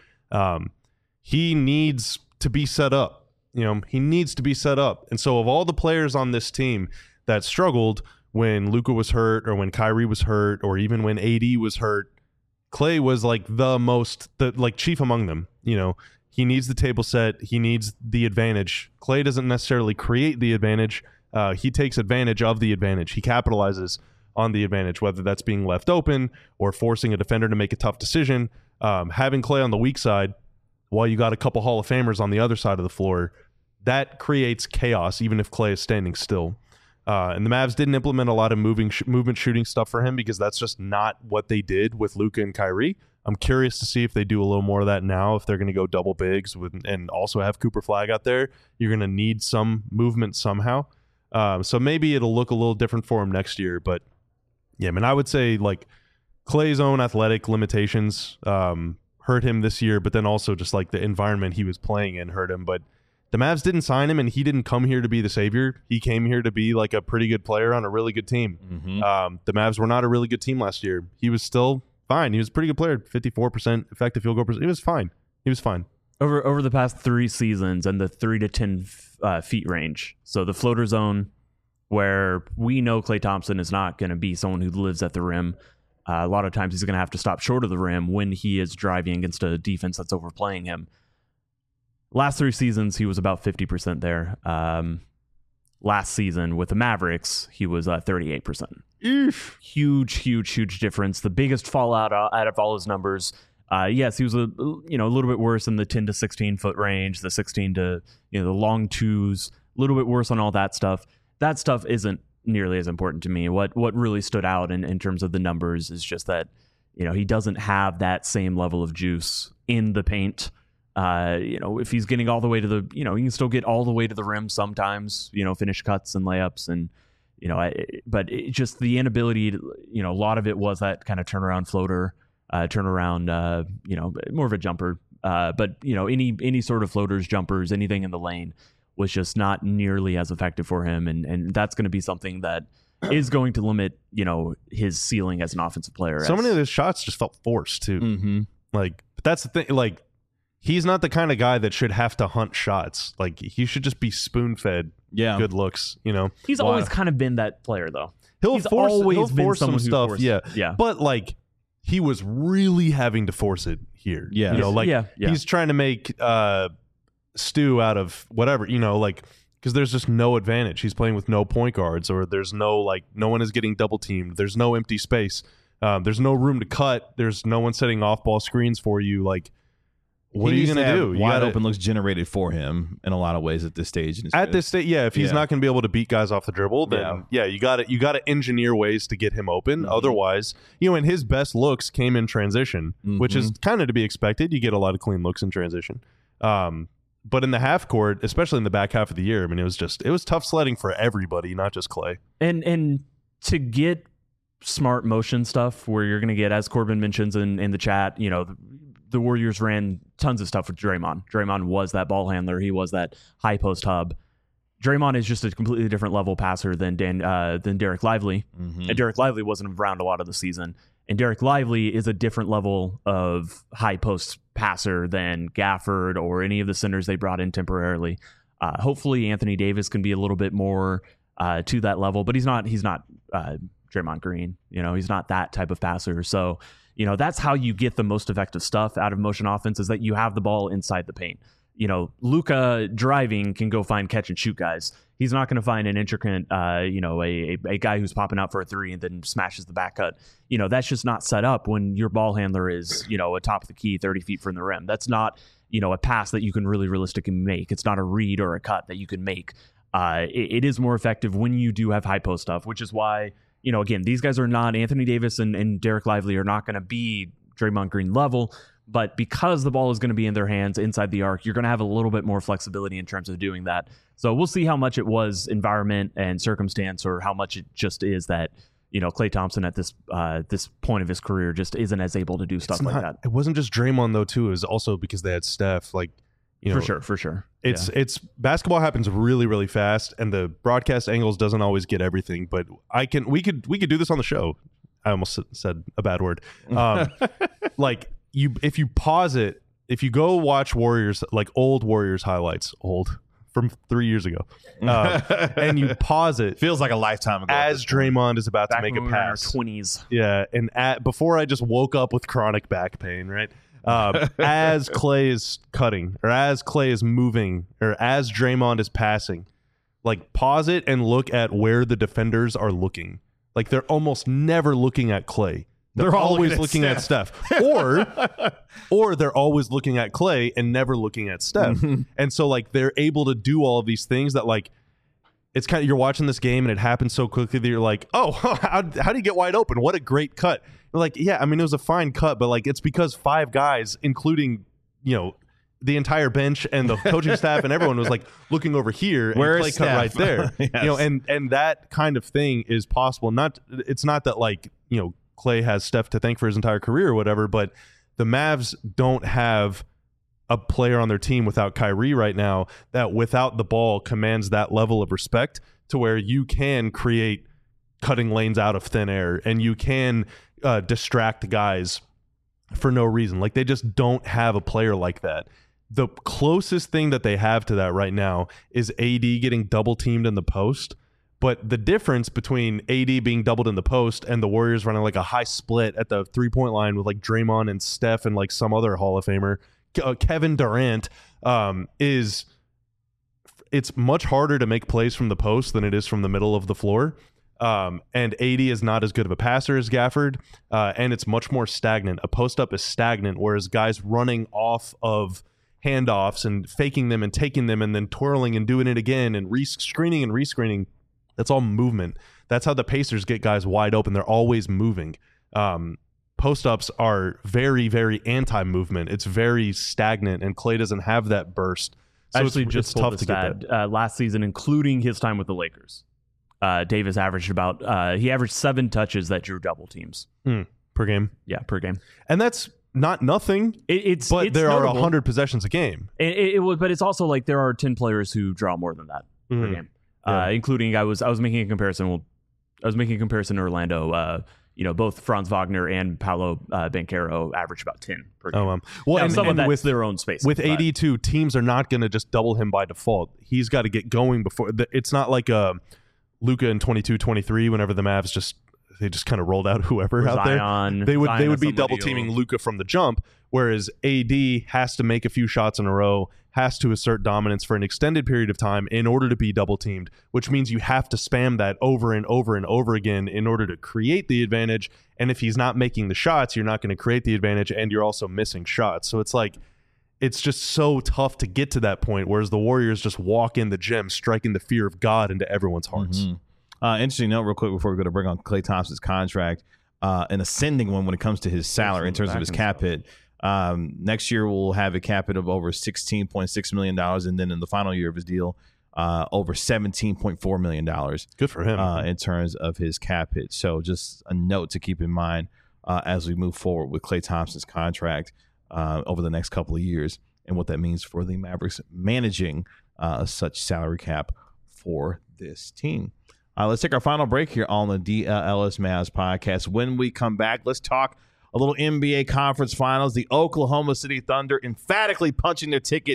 He needs to be set up. You know, he needs to be set up. And so of all the players on this team that struggled when Luka was hurt or when Kyrie was hurt or even when AD was hurt, Klay was like the chief among them. You know, he needs the table set. He needs the advantage. Klay doesn't necessarily create the advantage. He takes advantage of the advantage. He capitalizes on the advantage, whether that's being left open or forcing a defender to make a tough decision. Having Klay on the weak side while you got a couple Hall of Famers on the other side of the floor, that creates chaos, even if Klay is standing still. And the Mavs didn't implement a lot of movement shooting stuff for him because that's just not what they did with Luka and Kyrie. I'm curious to see if they do a little more of that now, if they're going to go double bigs and also have Cooper Flag out there. You're going to need some movement somehow. So maybe it'll look a little different for him next year. But yeah, I mean, I would say like Klay's own athletic limitations hurt him this year, but then also just like the environment he was playing in hurt him. But the Mavs didn't sign him, and he didn't come here to be the savior. He came here to be like a pretty good player on a really good team. The Mavs were not a really good team last year. He was still fine. He was a pretty good player, 54% effective field goal percent. He was fine. Over the past 3 seasons and the 3 to 10 feet range. So the floater zone, where we know Klay Thompson is not going to be someone who lives at the rim. A lot of times he's going to have to stop short of the rim when he is driving against a defense that's overplaying him. Last 3 seasons, he was about 50% there. Last season with the Mavericks, he was 38%. Huge difference. The biggest fallout out of all his numbers. Yes, he was a little bit worse in the 10 to 16 foot range, the 16 to the long twos, a little bit worse on all that stuff. That stuff isn't nearly as important to me. What really stood out in terms of the numbers is just that he doesn't have that same level of juice in the paint. If he's getting all the way to the, he can still get all the way to the rim sometimes, finish cuts and layups and, but just the inability to, a lot of it was that kind of turnaround floater, more of a jumper. But any sort of floaters, jumpers, anything in the lane was just not nearly as effective for him. And that's going to be something that is going to limit, his ceiling as an offensive player. So many of his shots just felt forced too. Mm-hmm. But that's the thing. Like, he's not the kind of guy that should have to hunt shots. Like, he should just be spoon-fed good looks, He's always kind of been that player, though. He'll force some stuff, yeah. But, like, he was really having to force it here. Yeah. He's trying to make stew out of whatever, because there's just no advantage. He's playing with no point guards, or there's no one is getting double-teamed. There's no empty space. There's no room to cut. There's no one setting off-ball screens for you, like, what are you going to do? Wide open looks generated for him in a lot of ways at this stage. This stage, if he's not going to be able to beat guys off the dribble, then you got to engineer ways to get him open. Mm-hmm. Otherwise, and his best looks came in transition, which is kind of to be expected. You get a lot of clean looks in transition. But in the half court, especially in the back half of the year, I mean, it was tough sledding for everybody, not just Klay. And to get smart motion stuff where you're going to get, as Corbin mentions in the chat, the Warriors ran tons of stuff with Draymond. Draymond was that ball handler. He was that high post hub. Draymond is just a completely different level passer than Derek Lively. Mm-hmm. And Derek Lively wasn't around a lot of the season. And Derek Lively is a different level of high post passer than Gafford or any of the centers they brought in temporarily. Hopefully Anthony Davis can be a little bit more to that level, but he's not Draymond Green. He's not that type of passer. So, that's how you get the most effective stuff out of motion offense, is that you have the ball inside the paint. Luka driving can go find catch and shoot guys. He's not going to find an intricate, a guy who's popping out for a three and then smashes the back cut. That's just not set up when your ball handler is, a top of the key, 30 feet from the rim. That's not, a pass that you can really realistically make. It's not a read or a cut that you can make. It is more effective when you do have high post stuff, which is why, again, these guys are not, Anthony Davis and Derek Lively are not going to be Draymond Green level, but because the ball is going to be in their hands inside the arc, you're going to have a little bit more flexibility in terms of doing that. So we'll see how much it was environment and circumstance, or how much it just is that, Klay Thompson at this point of his career just isn't as able to do stuff like that. It wasn't just Draymond though, too. It was also because they had Steph. For sure. It's basketball happens really, really fast, and the broadcast angles doesn't always get everything. But we could do this on the show. I almost said a bad word. If you pause it, if you go watch Warriors, like old Warriors highlights, from 3 years ago, and you pause it, feels like a lifetime ago. As Draymond is about back to make a pass, in our 20s. Yeah, and before I just woke up with chronic back pain, right? As Klay is cutting, or as Klay is moving, or as Draymond is passing, pause it and look at where the defenders are looking. They're almost never looking at Klay. They're always looking at Steph. Or they're always looking at Klay and never looking at Steph. And so they're able to do all of these things that it's kind of, you're watching this game and it happens so quickly that you're like, oh, how do you get wide open? What a great cut. You're yeah, it was a fine cut, but it's because five guys, including, the entire bench and the coaching staff and everyone was looking over here, and Klay cut right there. Yes. And that kind of thing is possible. It's not that Klay has Steph to thank for his entire career or whatever, but the Mavs don't have a player on their team without Kyrie right now that without the ball commands that level of respect to where you can create cutting lanes out of thin air and you can distract guys for no reason. They just don't have a player like that. The closest thing that they have to that right now is AD getting double teamed in the post. But the difference between AD being doubled in the post and the Warriors running a high split at the 3-point line with Draymond and Steph and some other Hall of Famer, Kevin Durant, is it's much harder to make plays from the post than it is from the middle of the floor. And AD is not as good of a passer as Gafford, and it's much more stagnant. A post-up is stagnant, whereas guys running off of handoffs and faking them and taking them and then twirling and doing it again and screening and rescreening, that's all movement. That's how the Pacers get guys wide open. They're always moving. Post-ups are very, very anti-movement. It's very stagnant, and Klay doesn't have that burst. So it's tough to get that. Last season, including his time with the Lakers, Davis averaged he averaged 7 touches that drew double teams per game. Yeah, per game. And that's not nothing. But there are 100 possessions a game. But it's also there are 10 players who draw more than that per game. Yeah. Including I was making a comparison. I was making a comparison to Orlando. Both Franz Wagner and Paolo Banchero averaged about 10 per game. And some of that with their own space. With AD too, teams are not going to just double him by default. He's got to get going before. It's not like Luka in 22-23 whenever the Mavs they just kind of rolled out whoever out there. They would be double teaming Luka from the jump, whereas AD has to make a few shots in a row, has to assert dominance for an extended period of time in order to be double teamed, which means you have to spam that over and over and over again in order to create the advantage. And if he's not making the shots, you're not going to create the advantage, and you're also missing shots. So it's just so tough to get to that point, whereas the Warriors just walk in the gym striking the fear of God into everyone's hearts. Mm-hmm. Interesting note real quick before we go to bring on Klay Thompson's contract, an ascending one when it comes to his salary in terms of his cap hit. Next year we'll have a cap hit of over $16.6 million, and then in the final year of his deal, over $17.4 million. Good for him. In terms of his cap hit. So just a note to keep in mind as we move forward with Klay Thompson's contract over the next couple of years and what that means for the Mavericks managing such salary cap for this team. Let's take our final break here on the DLS Mavs podcast. When we come back, let's talk a little NBA Conference Finals. The Oklahoma City Thunder emphatically punching their ticket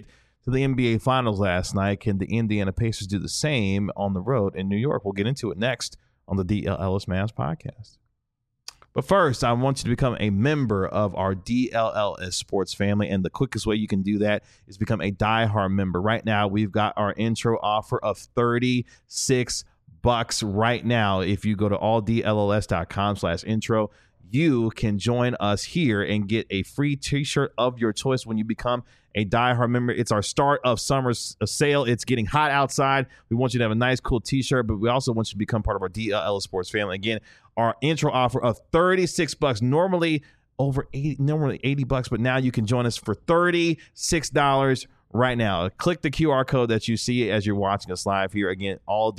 to the NBA Finals last night. Can the Indiana Pacers do the same on the road in New York? We'll get into it next on the DLLS Mavs podcast. But first, I want you to become a member of our DLLS Sports family, and the quickest way you can do that is become a diehard member. Right now, we've got our intro offer of $36 right now. If you go to alldlls.com/intro, you can join us here and get a free t-shirt of your choice when you become a diehard member. It's our start of summer sale. It's getting hot outside. We want you to have a nice, cool t-shirt, but we also want you to become part of our DLL Sports family. Again, our intro offer of $36, normally over $80, but now you can join us for $36 right now. Click the QR code that you see as you're watching us live here. Again,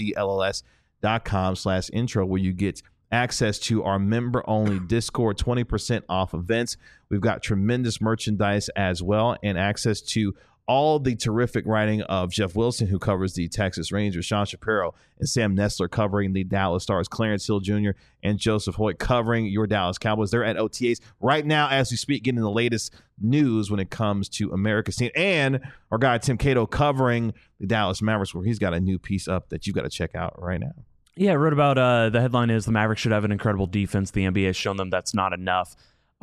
alldlls.com/intro, where you get access to our member-only Discord, 20% off events. We've got tremendous merchandise as well, and access to all the terrific writing of Jeff Wilson, who covers the Texas Rangers, Sean Shapiro and Sam Nestler covering the Dallas Stars, Clarence Hill Jr. and Joseph Hoyt covering your Dallas Cowboys. They're at OTAs right now as we speak, getting the latest news when it comes to America's team. And our guy Tim Cato covering the Dallas Mavericks, where he's got a new piece up that you've got to check out right now. Yeah, I wrote about the headline is the Mavericks should have an incredible defense. The NBA has shown them that's not enough.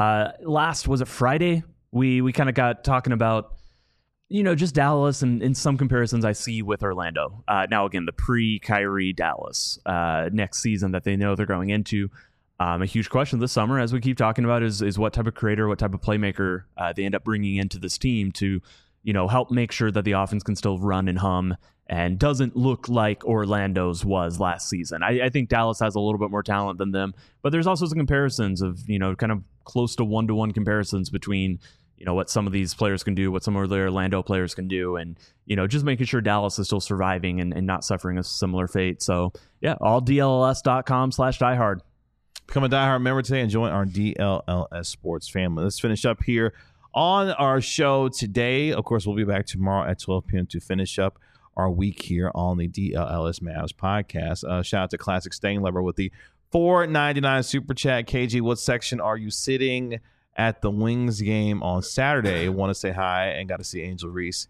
Was it Friday? We kind of got talking about, just Dallas and in some comparisons I see with Orlando. Now, again, the pre-Kyrie Dallas next season that they know they're going into. A huge question this summer, as we keep talking about, is what type of creator, what type of playmaker they end up bringing into this team to, help make sure that the offense can still run and hum and doesn't look like Orlando's was last season. I think Dallas has a little bit more talent than them, but there's also some comparisons of, kind of close to one-to-one comparisons between, what some of these players can do, what some of the Orlando players can do, and, just making sure Dallas is still surviving and not suffering a similar fate. So, yeah, alldlls.com/diehard. Become a diehard member today and join our DLLS Sports family. Let's finish up here on our show today. Of course, we'll be back tomorrow at 12 p.m. to finish up our week here on the DLLS Mavs podcast. Shout out to Classic Stainlever with the $4.99 super chat. KG, what section are you sitting at the Wings game on Saturday? Want to say hi and got to see Angel Reese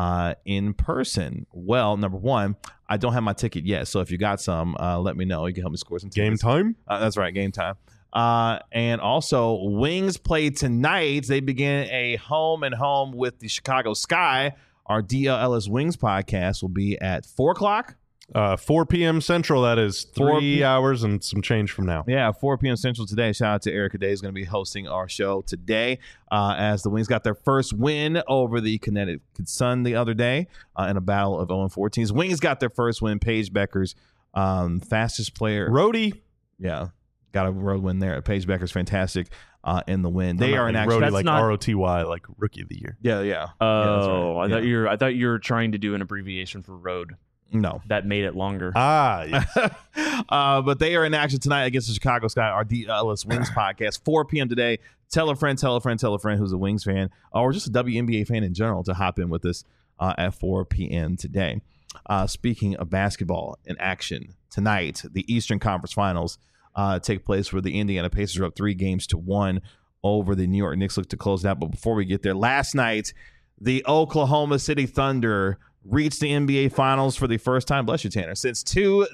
in person. Well, number one, I don't have my ticket yet, so if you got some, let me know. You can help me score some tickets. Game time? That's right, game time. And also, Wings play tonight. They begin a home and home with the Chicago Sky. Our DLLS Wings podcast will be at 4 o'clock. 4 p.m. Central, that is 3 hours and some change from now. Yeah, 4 p.m. Central today. Shout out to Erica Day, who's going to be hosting our show today as the Wings got their first win over the Connecticut Sun the other day in a battle of 0-4 teams. Wings got their first win. Paige Becker's fastest player. Roadie. Yeah, got a road win there. Paige Becker's fantastic in the win. They are in action. Roadie, like R-O-T-Y, like Rookie of the Year. Yeah. Oh, right. I thought you were trying to do an abbreviation for road. No. That made it longer. Yes. But they are in action tonight against the Chicago Sky, our DLS Wings podcast, 4 p.m. today. Tell a friend who's a Wings fan or just a WNBA fan in general to hop in with us at 4 p.m. today. Speaking of basketball in action, tonight, the Eastern Conference Finals take place where the Indiana Pacers are up 3-1 over the New York Knicks. Look to close it out. But before we get there, last night, the Oklahoma City Thunder reached the NBA Finals for the first time, bless you, Tanner, since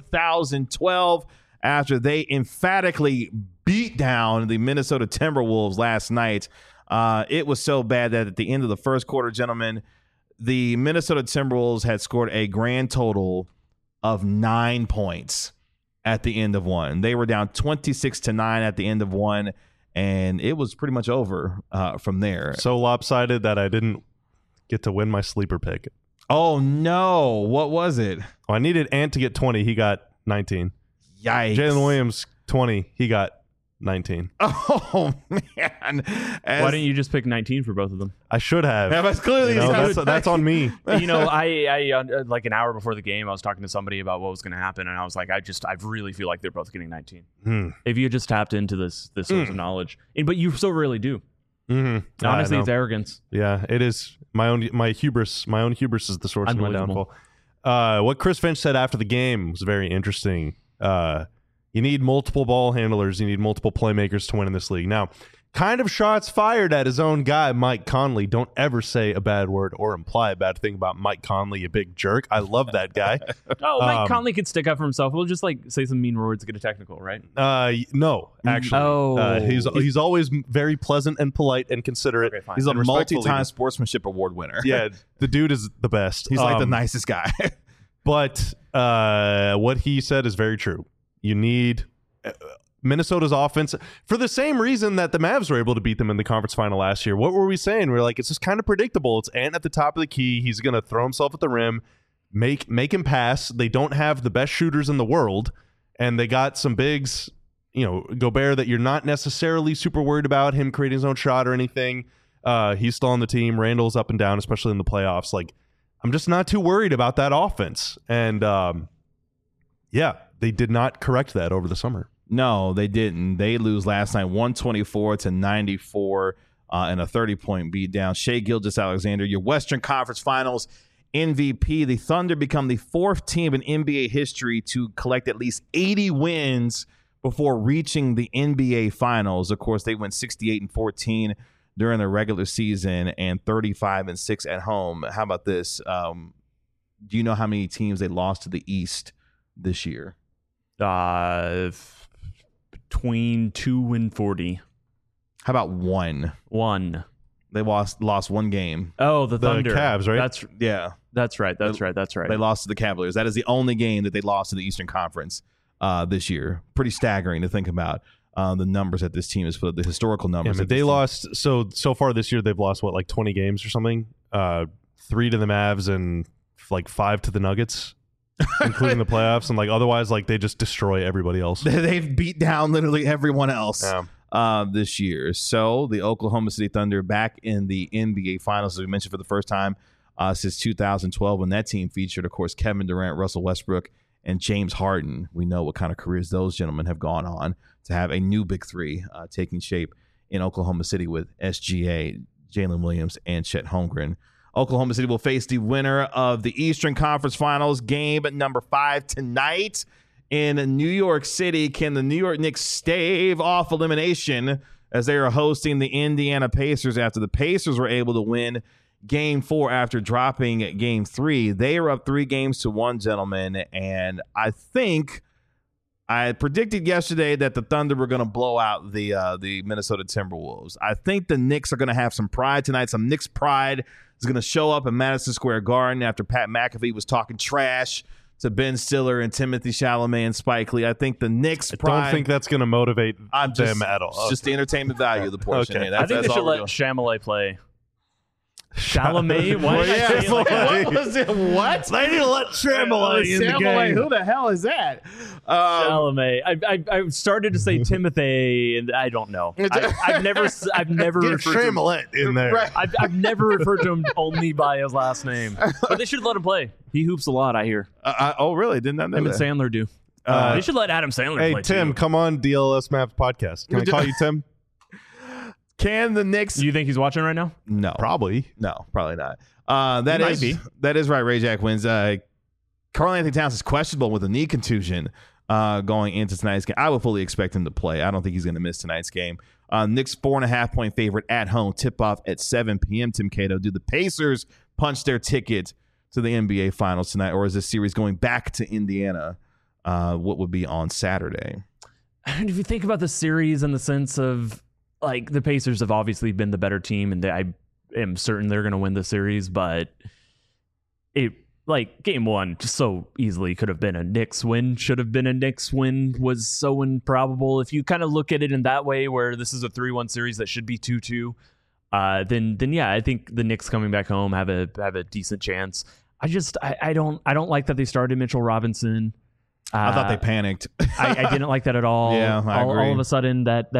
2012 after they emphatically beat down the Minnesota Timberwolves last night. It was so bad that at the end of the first quarter, gentlemen, the Minnesota Timberwolves had scored a grand total of 9 points at the end of one. They were down 26-9 at the end of one, and it was pretty much over from there. So lopsided that I didn't get to win my sleeper pick. Oh, no. What was it? Well, I needed Ant to get 20. He got 19. Yikes. Jalen Williams, 20. He got 19. Oh, man. Why didn't you just pick 19 for both of them? I should have. Yeah, that's clearly that's on me. I like an hour before the game, I was talking to somebody about what was going to happen, and I was like, I really feel like they're both getting 19. If you just tapped into this source of knowledge, but you so really do. Mm-hmm. Honestly, it's arrogance. Yeah, it is. My hubris is the source of my downfall. What Chris Finch said after the game was very interesting. You need multiple ball handlers. You need multiple playmakers to win in this league. Now, kind of shots fired at his own guy, Mike Conley. Don't ever say a bad word or imply a bad thing about Mike Conley, you big jerk. I love that guy. Mike Conley could stick up for himself. We'll just say some mean words to get a technical, right? No, actually. He's always very pleasant and polite and considerate. Okay, fine. He's a And respectful multi-time leader. sportsmanship award winner. Yeah, the dude is the best. He's like the nicest guy. But what he said is very true. You need Minnesota's offense for the same reason that the Mavs were able to beat them in the conference final last year. What were we saying? We're like, it's just kind of predictable. It's Ant at the top of the key. He's going to throw himself at the rim, make him pass. They don't have the best shooters in the world, and they got some bigs, Gobert, that you're not necessarily super worried about him creating his own shot or anything. He's still on the team. Randall's up and down, especially in the playoffs. Like, I'm just not too worried about that offense. And they did not correct that over the summer. No, they didn't. They lose last night 124-94 and a 30-point beatdown. Shai Gilgeous-Alexander, your Western Conference Finals MVP. The Thunder become the fourth team in NBA history to collect at least 80 wins before reaching the NBA Finals. Of course, they went 68-14 during the regular season and 35-6 at home. How about this? Do you know how many teams they lost to the East this year? Between 2 and 40. How about one? One. They lost one game. Oh, the Thunder. Cavs, right? That's right. They lost to the Cavaliers. That is the only game that they lost to the Eastern Conference this year. Pretty staggering to think about the numbers that this team has put up, the historical numbers. Yeah, they lost. So far this year, they've lost, 20 games or something? 3 to the Mavs and 5 to the Nuggets. Including the playoffs, and otherwise they just destroy everybody else. They've beat down literally everyone else this year. So the Oklahoma City Thunder back in the NBA Finals, as we mentioned, for the first time since 2012, when that team featured, of course, Kevin Durant, Russell Westbrook, and James Harden. We know what kind of careers those gentlemen have gone on to have a new big three taking shape in Oklahoma City with SGA, Jalen Williams, and Chet Holmgren. Oklahoma City will face the winner of the Eastern Conference Finals game number 5 tonight in New York City. Can the New York Knicks stave off elimination as they are hosting the Indiana Pacers after the Pacers were able to win Game 4 after dropping Game 3? They are up 3-1, gentlemen, and I think I predicted yesterday that the Thunder were going to blow out the Minnesota Timberwolves. I think the Knicks are going to have some pride tonight, some Knicks pride is going to show up in Madison Square Garden after Pat McAfee was talking trash to Ben Stiller and Timothy Chalamet and Spike Lee. I think the Knicks pride. I don't think that's going to motivate them at all. It's just the entertainment value of the portion. Okay. I think they should let Chalamet play. Chalamet? What was it? What? They need to let Chalamet in the game. Who the hell is that? Chalamet. I started to say Timothy, and I don't know. I've never Get referred to him. Chalamet in there. Right. I've never referred to him only by his last name. But they should let him play. He hoops a lot, I hear. Oh, really? Didn't I know Him that? and Sandler do. They should let Adam Sandler play. Hey, Tim, too. come on DLS Mavs podcast. Can I call you Tim? Can the Knicks? Do you think he's watching right now? No. Probably. No, probably not. That might is be. That is right. Ray Jack wins. Karl-Anthony Towns is questionable with a knee contusion going into tonight's game. I would fully expect him to play. I don't think he's going to miss tonight's game. Knicks 4.5-point favorite at home. Tip off at 7 p.m. Tim Cato. Do the Pacers punch their ticket to the NBA Finals tonight, or is this series going back to Indiana? What would be on Saturday? And if you think about the series in the sense of the Pacers have obviously been the better team, and I am certain they're going to win the series, but it game 1 just so easily could have been a Knicks win, should have been a Knicks win, was so improbable. If you kind of look at it in that way, where this is a 3-1 series that should be 2-2, then yeah, I think the Knicks coming back home have a decent chance. I don't like that they started Mitchell Robinson. I thought they panicked. I didn't like that at all. Yeah, I agree. All of a sudden that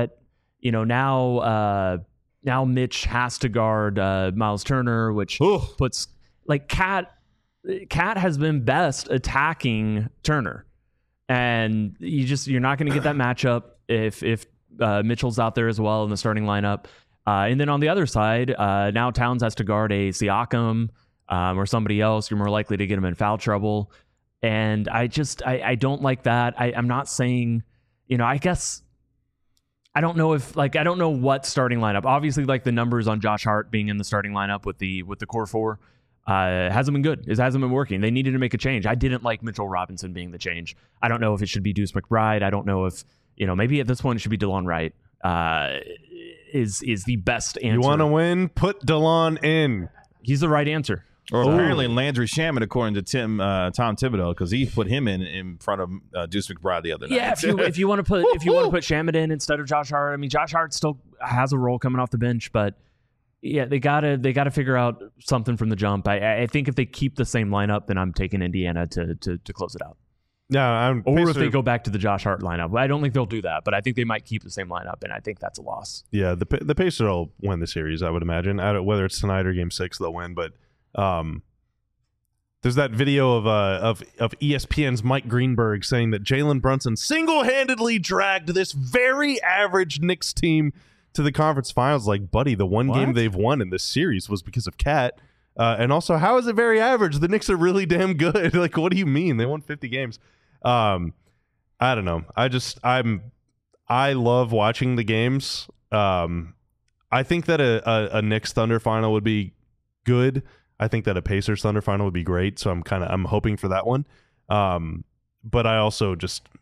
now Mitch has to guard Miles Turner, which puts Cat has been best attacking Turner, and you're not going to get that matchup if Mitchell's out there as well in the starting lineup. And then on the other side, now Towns has to guard a Siakam or somebody else. You're more likely to get him in foul trouble, and I don't like that. I'm not saying, I guess I don't know what starting lineup. Obviously, like the numbers on Josh Hart being in the starting lineup with the core four hasn't been good. It hasn't been working. They needed to make a change. I didn't like Mitchell Robinson being the change. I don't know if it should be Deuce McBride. I don't know if maybe at this point it should be DeLon Wright. Is the best answer. You want to win? Put DeLon in. He's the right answer. Or apparently Landry Shamet, according to Tom Thibodeau, because he put him in front of Deuce McBride the other night. Yeah, if you want to put Shamet in instead of Josh Hart, I mean Josh Hart still has a role coming off the bench, but yeah, they gotta figure out something from the jump. I think if they keep the same lineup, then I'm taking Indiana to close it out. Yeah, if they go back to the Josh Hart lineup, I don't think they'll do that, but I think they might keep the same lineup, and I think that's a loss. Yeah, the Pacers will win the series, I would imagine. Whether it's tonight or Game 6, they'll win, but. There's that video of ESPN's Mike Greenberg saying that Jalen Brunson single-handedly dragged this very average Knicks team to the conference finals. Like, buddy, the one game they've won in this series was because of Cat. And also, how is it very average? The Knicks are really damn good. Like, what do you mean? They won 50 games. I don't know. I love watching the games. I think that a Knicks Thunder final would be good. I think that a Pacers Thunder final would be great, so I'm hoping for that one. But I also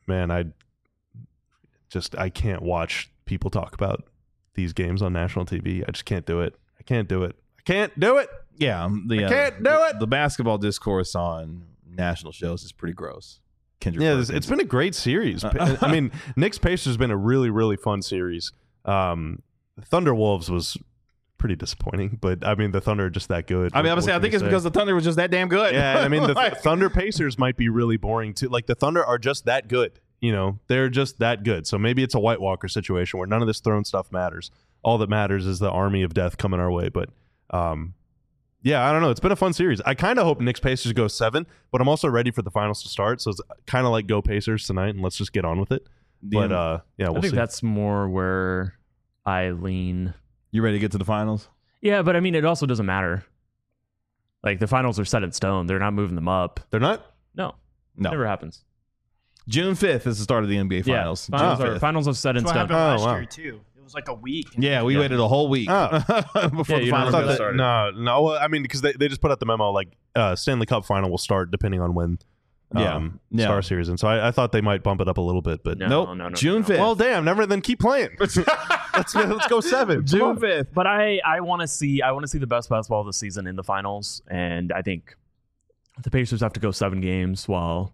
I can't watch people talk about these games on national TV. I just can't do it. I can't do it. Yeah, I can't do it. The basketball discourse on national shows is pretty gross. Kendrick Perkins. It's been a great series. I mean, Knicks Pacers has been a really, really fun series. Thunder Wolves was pretty disappointing, but I mean the Thunder are just that good. I think it's because the Thunder was just that damn good. Yeah, I mean the Thunder Pacers might be really boring too. Like the Thunder are just that good. They're just that good. So maybe it's a White Walker situation where none of this throne stuff matters. All that matters is the army of death coming our way. But yeah, I don't know. It's been a fun series. I kind of hope Knicks Pacers go 7, but I'm also ready for the finals to start. So it's kind of like go Pacers tonight, and let's just get on with it. But yeah, we'll see. That's more where I lean. You ready to get to the finals? Yeah, but I mean, it also doesn't matter. Like, the finals are set in stone. They're not moving them up. They're not? No. Never happens. June 5th is the start of the NBA finals. Yeah, finals are set in stone. Last year, too. It was like a week. Yeah, we waited a whole week before the finals started. No. I mean, because they just put out the memo, like, Stanley Cup final will start depending on when Star Series. And so I thought they might bump it up a little bit, but nope. June 5th. Well, damn, then keep playing. Let's go 7. June 5th. But I want to see the best basketball of the season in the finals, and I think the Pacers have to go 7 games while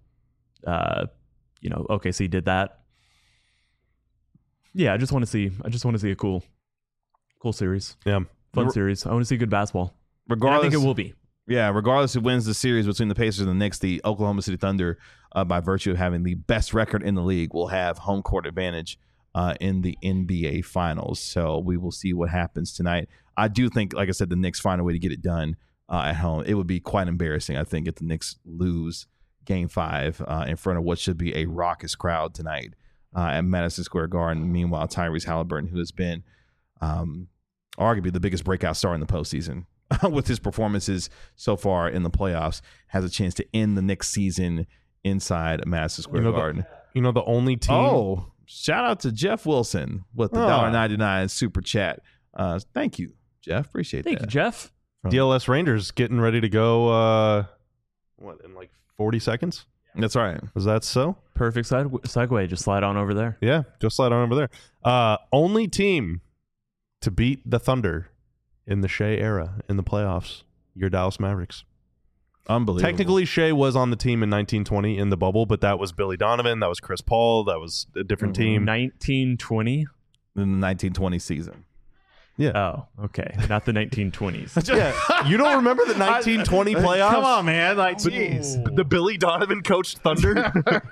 OKC did that. Yeah, I just want to see a cool series. Yeah. Fun series. I want to see good basketball. Regardless, I think it will be. Yeah, regardless who wins the series between the Pacers and the Knicks, the Oklahoma City Thunder, by virtue of having the best record in the league, will have home court advantage in the NBA Finals. So we will see what happens tonight. I do think, like I said, the Knicks find a way to get it done at home. It would be quite embarrassing, I think, if the Knicks lose Game 5 in front of what should be a raucous crowd tonight at Madison Square Garden. Meanwhile, Tyrese Halliburton, who has been arguably the biggest breakout star in the postseason with his performances so far in the playoffs, has a chance to end the Knicks season inside Madison Square Garden. The only team... Oh, shout out to Jeff Wilson with the $1.99 super chat. Thank you, Jeff. Appreciate that. Thank you, Jeff. DLS Rangers getting ready to go, in like 40 seconds? That's right. Is that so? Perfect segue. Just slide on over there. Yeah, just slide on over there. Only team to beat the Thunder in the Shea era in the playoffs, your Dallas Mavericks. Unbelievable. Technically, Shea was on the team in 1920 in the bubble, but that was Billy Donovan. That was Chris Paul. That was a different team. 1920? In the 1920 season. Yeah. Oh, okay. Not the 1920s. Yeah. You don't remember the 1920 playoffs? Come on, man. Like, jeez. The Billy Donovan coached Thunder?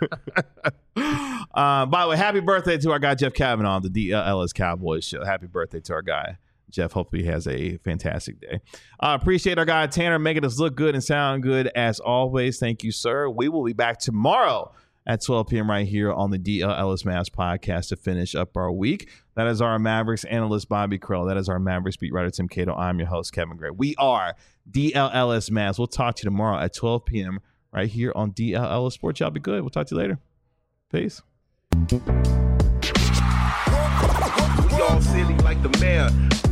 By the way, happy birthday to our guy, Jeff Kavanaugh, on the DLS Cowboys show. Happy birthday to our guy, Jeff. Hopefully he has a fantastic day. Appreciate our guy, Tanner, making us look good and sound good as always. Thank you, sir. We will be back tomorrow at 12 p.m. right here on the DLS Mavs podcast to finish up our week. That is our Mavericks analyst, Bobby Krell. That is our Mavericks beat writer, Tim Cato. I'm your host, Kevin Gray. We are DLS Mavs. We'll talk to you tomorrow at 12 p.m. right here on DLS Sports. Y'all be good. We'll talk to you later. Peace. We all silly like the mayor.